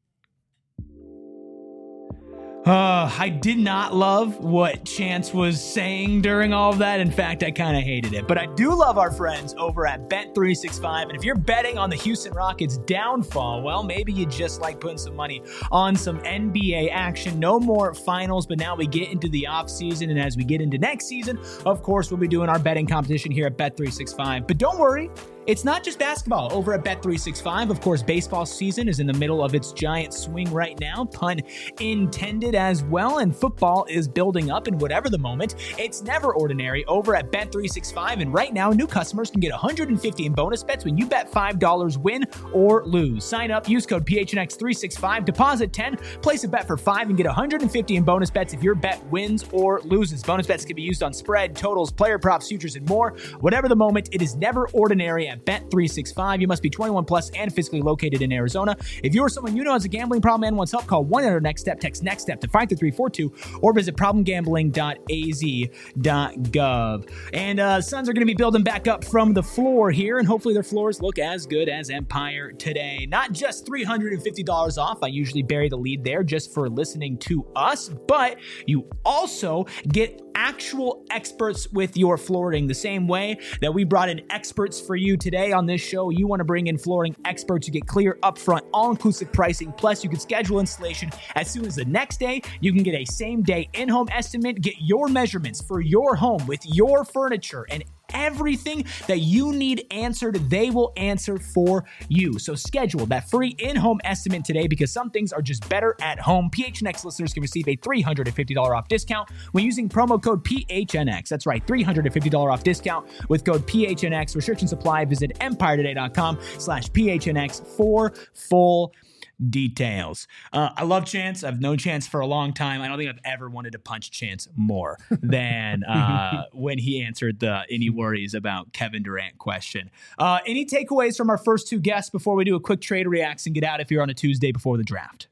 Uh, I did not love what Chance was saying during all of that. In fact, I kind of hated it. But I do love our friends over at Bet three sixty-five. And if you're betting on the Houston Rockets downfall, well, maybe you just like putting some money on some N B A action. No more finals, but now we get into the offseason. And as we get into next season, of course, we'll be doing our betting competition here at Bet three sixty-five. But don't worry. It's not just basketball over at Bet three sixty-five. Of course, baseball season is in the middle of its giant swing right now, pun intended as well, and football is building up, and whatever the moment, it's never ordinary over at Bet three sixty-five, and right now, new customers can get one hundred fifty in bonus bets when you bet five dollars win or lose. Sign up, use code P H N X three sixty-five, deposit ten, place a bet for five, and get one hundred fifty in bonus bets if your bet wins or loses. Bonus bets can be used on spread, totals, player props, futures, and more. Whatever the moment, it is never ordinary at Bet three sixty-five. You must be twenty-one plus and physically located in Arizona. If you or someone you know has a gambling problem and wants help, call one eight hundred next step, text next step to five three three four two, or visit problem gambling dot a z dot gov. And uh, Suns are going to be building back up from the floor here, and hopefully their floors look as good as Empire today. Not just three hundred fifty dollars off. I usually bury the lead there just for listening to us, but you also get actual experts with your flooring the same way that we brought in experts for you today on this show. You want to bring in flooring experts, you get clear upfront all-inclusive pricing, plus you can schedule installation as soon as the next day. You can get a same day in-home estimate, get your measurements for your home with your furniture, and everything that you need answered, they will answer for you. So schedule that free in-home estimate today, because some things are just better at home. P H N X listeners can receive a three hundred fifty dollars off discount when using promo code P H N X. That's right, three hundred fifty dollars off discount with code P H N X. Restrictions apply. Visit empire today dot com slash P H N X for full details. Uh, I love Chance. I've known Chance for a long time. I don't think I've ever wanted to punch Chance more than uh, when he answered the any worries about Kevin Durant question. Uh, any takeaways from our first two guests before we do a quick trade reacts and get out if you're on a Tuesday before the draft?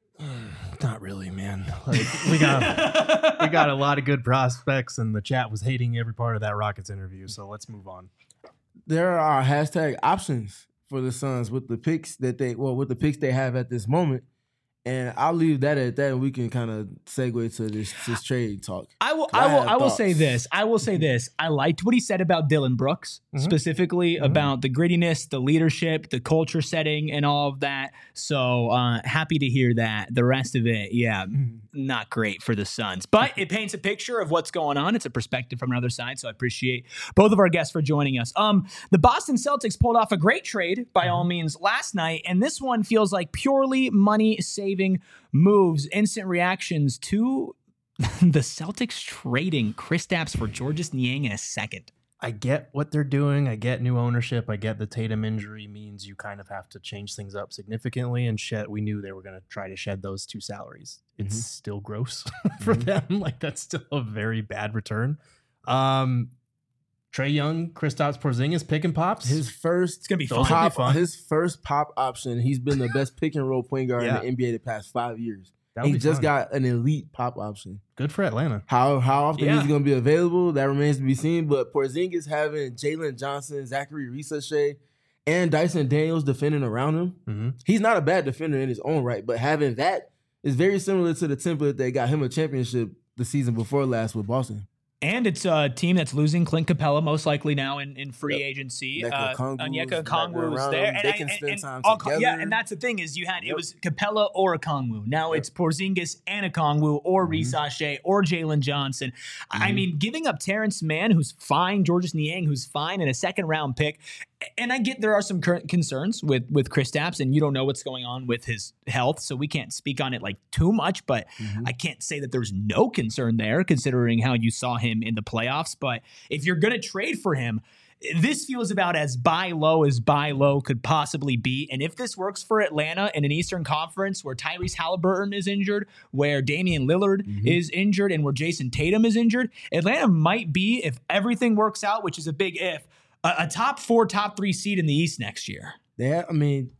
Not really, man. Like we got we got a lot of good prospects, and the chat was hating every part of that Rockets interview. So let's move on. there are hashtag options for the Suns with the picks that they well with the picks they have at this moment. And I'll leave that at that, and we can kind of segue to this, this trade talk. I will. I I will. have I will say thoughts. this. I will say this. I liked what he said about Dylan Brooks, Mhm. specifically Mhm. about the grittiness, the leadership, the culture setting, and all of that. So uh, happy to hear that. The rest of it, yeah, not great for the Suns, but it paints a picture of what's going on. It's a perspective from another side. So I appreciate both of our guests for joining us. Um, the Boston Celtics pulled off a great trade by all means last night, and this one feels like purely money saving saving moves, instant reactions to the Celtics trading Kristaps for Georges Niang in a second. I get what they're doing. I get new ownership. I get the Tatum injury means you kind of have to change things up significantly. And shed, we knew they were going to try to shed those two salaries. It's Mhm. still gross for Mhm. them. Like, that's still a very bad return. Um, Trae Young, Kristaps Porzingis, pick and pops. His first It's going to be Those fun. are- pop, fun. his first pop option. He's been the best pick and roll point guard Yeah. in the N B A the past five years. That would He be just fun. got an elite pop option. Good for Atlanta. How how often Yeah. he's going to be available, that remains to be seen. But Porzingis having Jalen Johnson, Zachary Ricochet, and Dyson Daniels defending around him, Mm-hmm. he's not a bad defender in his own right. But having that is very similar to the template that got him a championship the season before last with Boston. And it's a team that's losing Clint Capella most likely now in, in free Yep. agency. Onyeka Uh, Okongwu's Onyeka back Okongwu is around there. him. And They I- can and- spend and time Okong- Yeah, together. and that's the thing is you had, it Yep. was Capella or Okongwu. Now Yep. it's Porzingis and Okongwu or Mhm. Ricochet or Jalen Johnson. I Mhm. mean, giving up Terrence Mann, who's fine, Georges Niang, who's fine, and a second round pick. And I get there are some current concerns with with Kristaps, and you don't know what's going on with his health, so we can't speak on it like too much. But Mhm. I can't say that there's no concern there, considering how you saw him in the playoffs. But if you're going to trade for him, this feels about as buy low as buy low could possibly be. And if this works for Atlanta in an Eastern Conference where Tyrese Halliburton is injured, where Damian Lillard Mhm. is injured, and where Jason Tatum is injured, Atlanta might be, if everything works out, which is a big if, a, a top four, top three seed in the East next year. Yeah, I mean,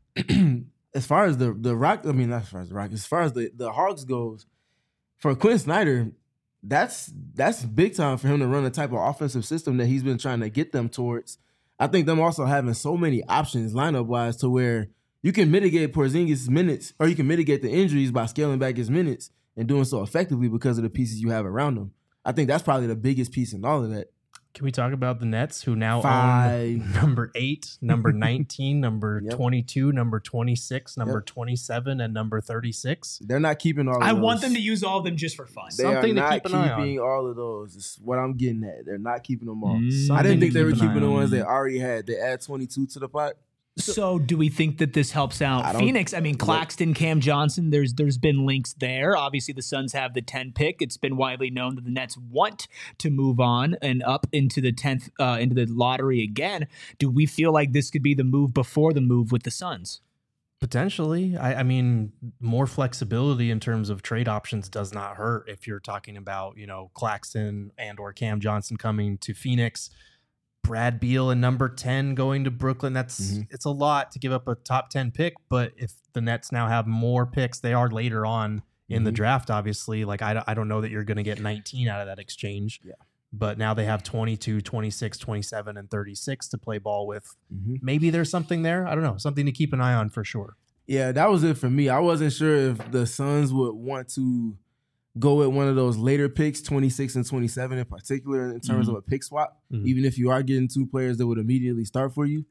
as far as the the Rock, I mean, not as far as the Rock, as far as the, the Hawks goes, for Quinn Snyder, that's that's big time for him to run the type of offensive system that he's been trying to get them towards. I think them also having so many options lineup wise to where you can mitigate Porzingis' minutes, or you can mitigate the injuries by scaling back his minutes and doing so effectively because of the pieces you have around him. I think that's probably the biggest piece in all of that. Can we talk about the Nets, who now own Five. number eight, number nineteen, number Yep. twenty-two, number twenty-six, number Yep. twenty-seven, and number thirty-six? They're not keeping all of I those. want them to use all of them just for fun. They Something to are not keep an eye on. keeping all of those. Is what I'm getting at. They're not keeping them all. Mm. I Something didn't to think they were keep an eye keeping the on. ones they already had. They add twenty-two to the pot. So do we think that this helps out I don't- Phoenix? I mean, Claxton, Cam Johnson, there's there's been links there. Obviously, the Suns have the ten pick. It's been widely known that the Nets want to move on and up into the tenth, uh, into the lottery again. Do we feel like this could be the move before the move with the Suns? Potentially. I, I mean, more flexibility in terms of trade options does not hurt if you're talking about, you know, Claxton and or Cam Johnson coming to Phoenix, Brad Beal and number ten going to Brooklyn. That's Mhm. it's a lot to give up a top ten pick, but if the Nets now have more picks, they are later on in the Mhm. draft, obviously. Like, I, don't- I don't know that you're going to get nineteen out of that exchange. Yeah. But now they have twenty-two, twenty-six, twenty-seven, and thirty-six to play ball with. Mm-hmm. Maybe there's something there. I don't know. Something to keep an eye on for sure. Yeah, that was it for me. I wasn't sure if the Suns would want to go with one of those later picks, twenty-six and twenty-seven in particular, in terms Mhm. of a pick swap, Mhm. even if you are getting two players that would immediately start for you.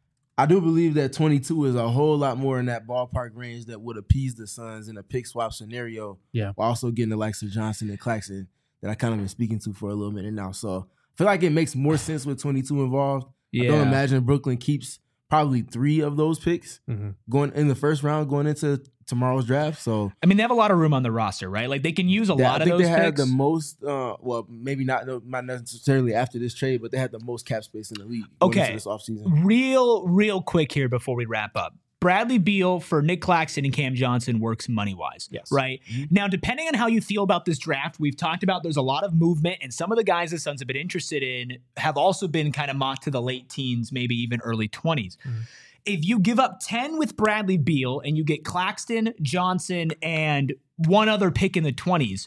I do believe that twenty-two is a whole lot more in that ballpark range that would appease the Suns in a pick swap scenario. Yeah. While also getting the likes of Johnson and Claxton that I kind of been speaking to for a little minute now. So I feel like it makes more sense with twenty-two involved. I don't imagine Brooklyn keeps probably three of those picks Mm-hmm. going in the first round, going into tomorrow's draft. So I mean, they have a lot of room on the roster, right? Like they can use a they- lot I of think those they had picks. the most. Uh, well, maybe not not necessarily after this trade, but they had the most cap space in the league. going Okay. into this offseason. Real, real quick here before we wrap up. Bradley Beal for Nick Claxton and Cam Johnson works money-wise, Yes. right? Now, depending on how you feel about this draft, we've talked about there's a lot of movement, and some of the guys the Suns have been interested in have also been kind of mocked to the late teens, maybe even early twenties. If you give up ten with Bradley Beal and you get Claxton, Johnson, and one other pick in the twenties,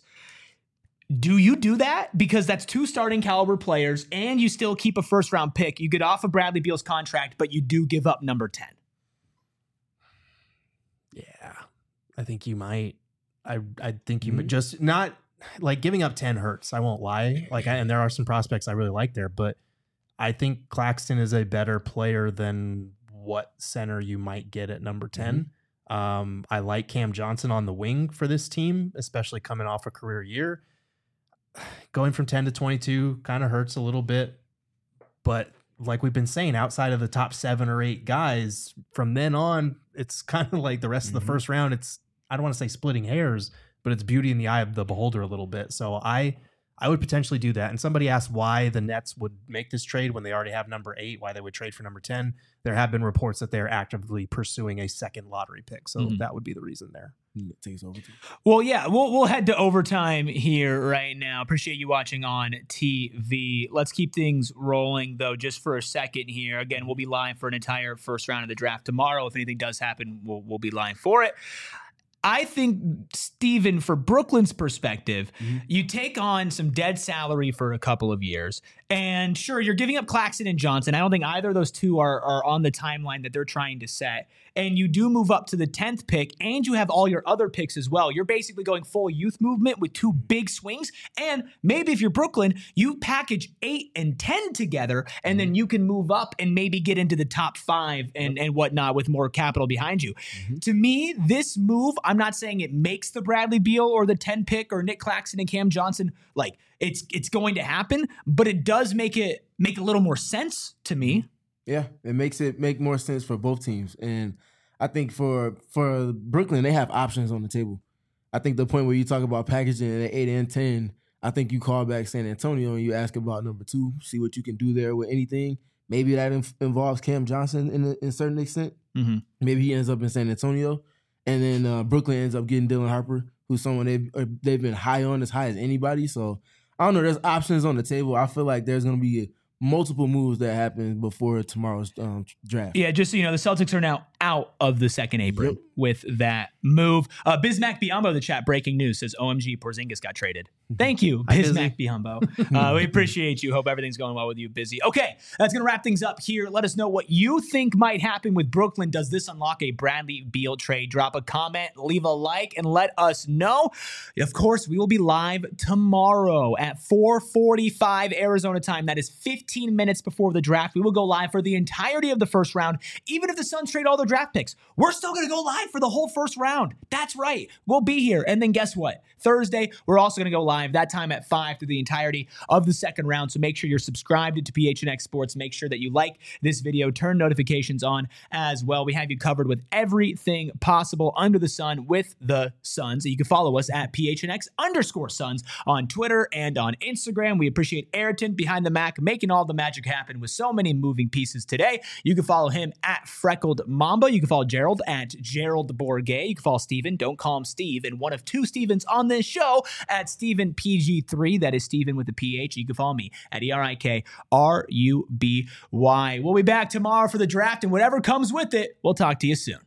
do you do that? Because that's two starting caliber players, and you still keep a first-round pick. You get off of Bradley Beal's contract, but you do give up number ten. Yeah, I think you might. I I think you Mhm. might just not like giving up ten hurts. I won't lie. Like, I, and there are some prospects I really like there, but I think Claxton is a better player than what center you might get at number ten. Um, I like Cam Johnson on the wing for this team, especially coming off a career year. Going from ten to twenty-two kind of hurts a little bit, but like we've been saying, outside of the top seven or eight guys, from then on, it's kind of like the rest Mhm. of the first round. It's I don't want to say splitting hairs, but it's beauty in the eye of the beholder a little bit. So I I would potentially do that. And somebody asked why the Nets would make this trade when they already have number eight, why they would trade for number ten. There have been reports that they're actively pursuing a second lottery pick. So mm-hmm. that would be the reason there. It takes overtime. Well, yeah, we'll we'll head to overtime here right now. Appreciate you watching on T V. Let's keep things rolling, though, just for a second here. Again, we'll be live for an entire first round of the draft tomorrow. If anything does happen, we'll we'll be live for it. I think, Steven, for Brooklyn's perspective, mm-hmm. you take on some dead salary for a couple of years. And sure, you're giving up Claxton and Johnson. I don't think either of those two are, are on the timeline that they're trying to set. And you do move up to the tenth pick, and you have all your other picks as well. You're basically going full youth movement with two big swings. And maybe if you're Brooklyn, you package eight and ten together, and then you can move up and maybe get into the top five and, and whatnot with more capital behind you. Mm-hmm. To me, this move, I'm not saying it makes the Bradley Beal or the ten pick or Nick Claxton and Cam Johnson. Like, it's it's going to happen, but it does make it make a little more sense to me. Yeah, it makes it make more sense for both teams. And I think for for Brooklyn, they have options on the table. I think the point where you talk about packaging at eight and ten, I think you call back San Antonio and you ask about number two, see what you can do there with anything. Maybe that inf- involves Cam Johnson in a, in a certain extent. Mm-hmm. Maybe he ends up in San Antonio. And then uh, Brooklyn ends up getting Dylan Harper, who's someone they've, they've been high on, as high as anybody. So, I don't know. There's options on the table. I feel like there's going to be multiple moves that happen before tomorrow's um, draft. Yeah, just so you know, the Celtics are now out of the second apron yep. with that move. Uh, Bismack Biyombo, the chat, breaking news, says O M G, Porzingis got traded. Thank you, Bismack Biyombo. Uh, we appreciate you. Hope everything's going well with you, Busy. Okay, that's going to wrap things up here. Let us know what you think might happen with Brooklyn. Does this unlock a Bradley Beal trade? Drop a comment, leave a like, and let us know. Of course, we will be live tomorrow at four forty-five Arizona time. That is fifteen minutes before the draft. We will go live for the entirety of the first round. Even if the Suns trade all their draft picks, we're still going to go live for the whole first round. That's right. We'll be here. And then guess what? Thursday, we're also going to go live that time at five through the entirety of the second round. So make sure you're subscribed to P H N X Sports. Make sure that you like this video. Turn notifications on as well. We have you covered with everything possible under the sun with the Suns. You can follow us at P H N X underscore Suns on Twitter and on Instagram. We appreciate Ayrton behind the Mac making all the magic happen with so many moving pieces today. You can follow him at Freckled Mamba. You can follow Gerald at Gerald Bourget. You can follow Steven. Don't call him Steve. And one of two Stevens on this show at Steven P G three. That is Steven with a P H. You can follow me at E R I K R U B Y. We'll be back tomorrow for the draft, and whatever comes with it, we'll talk to you soon.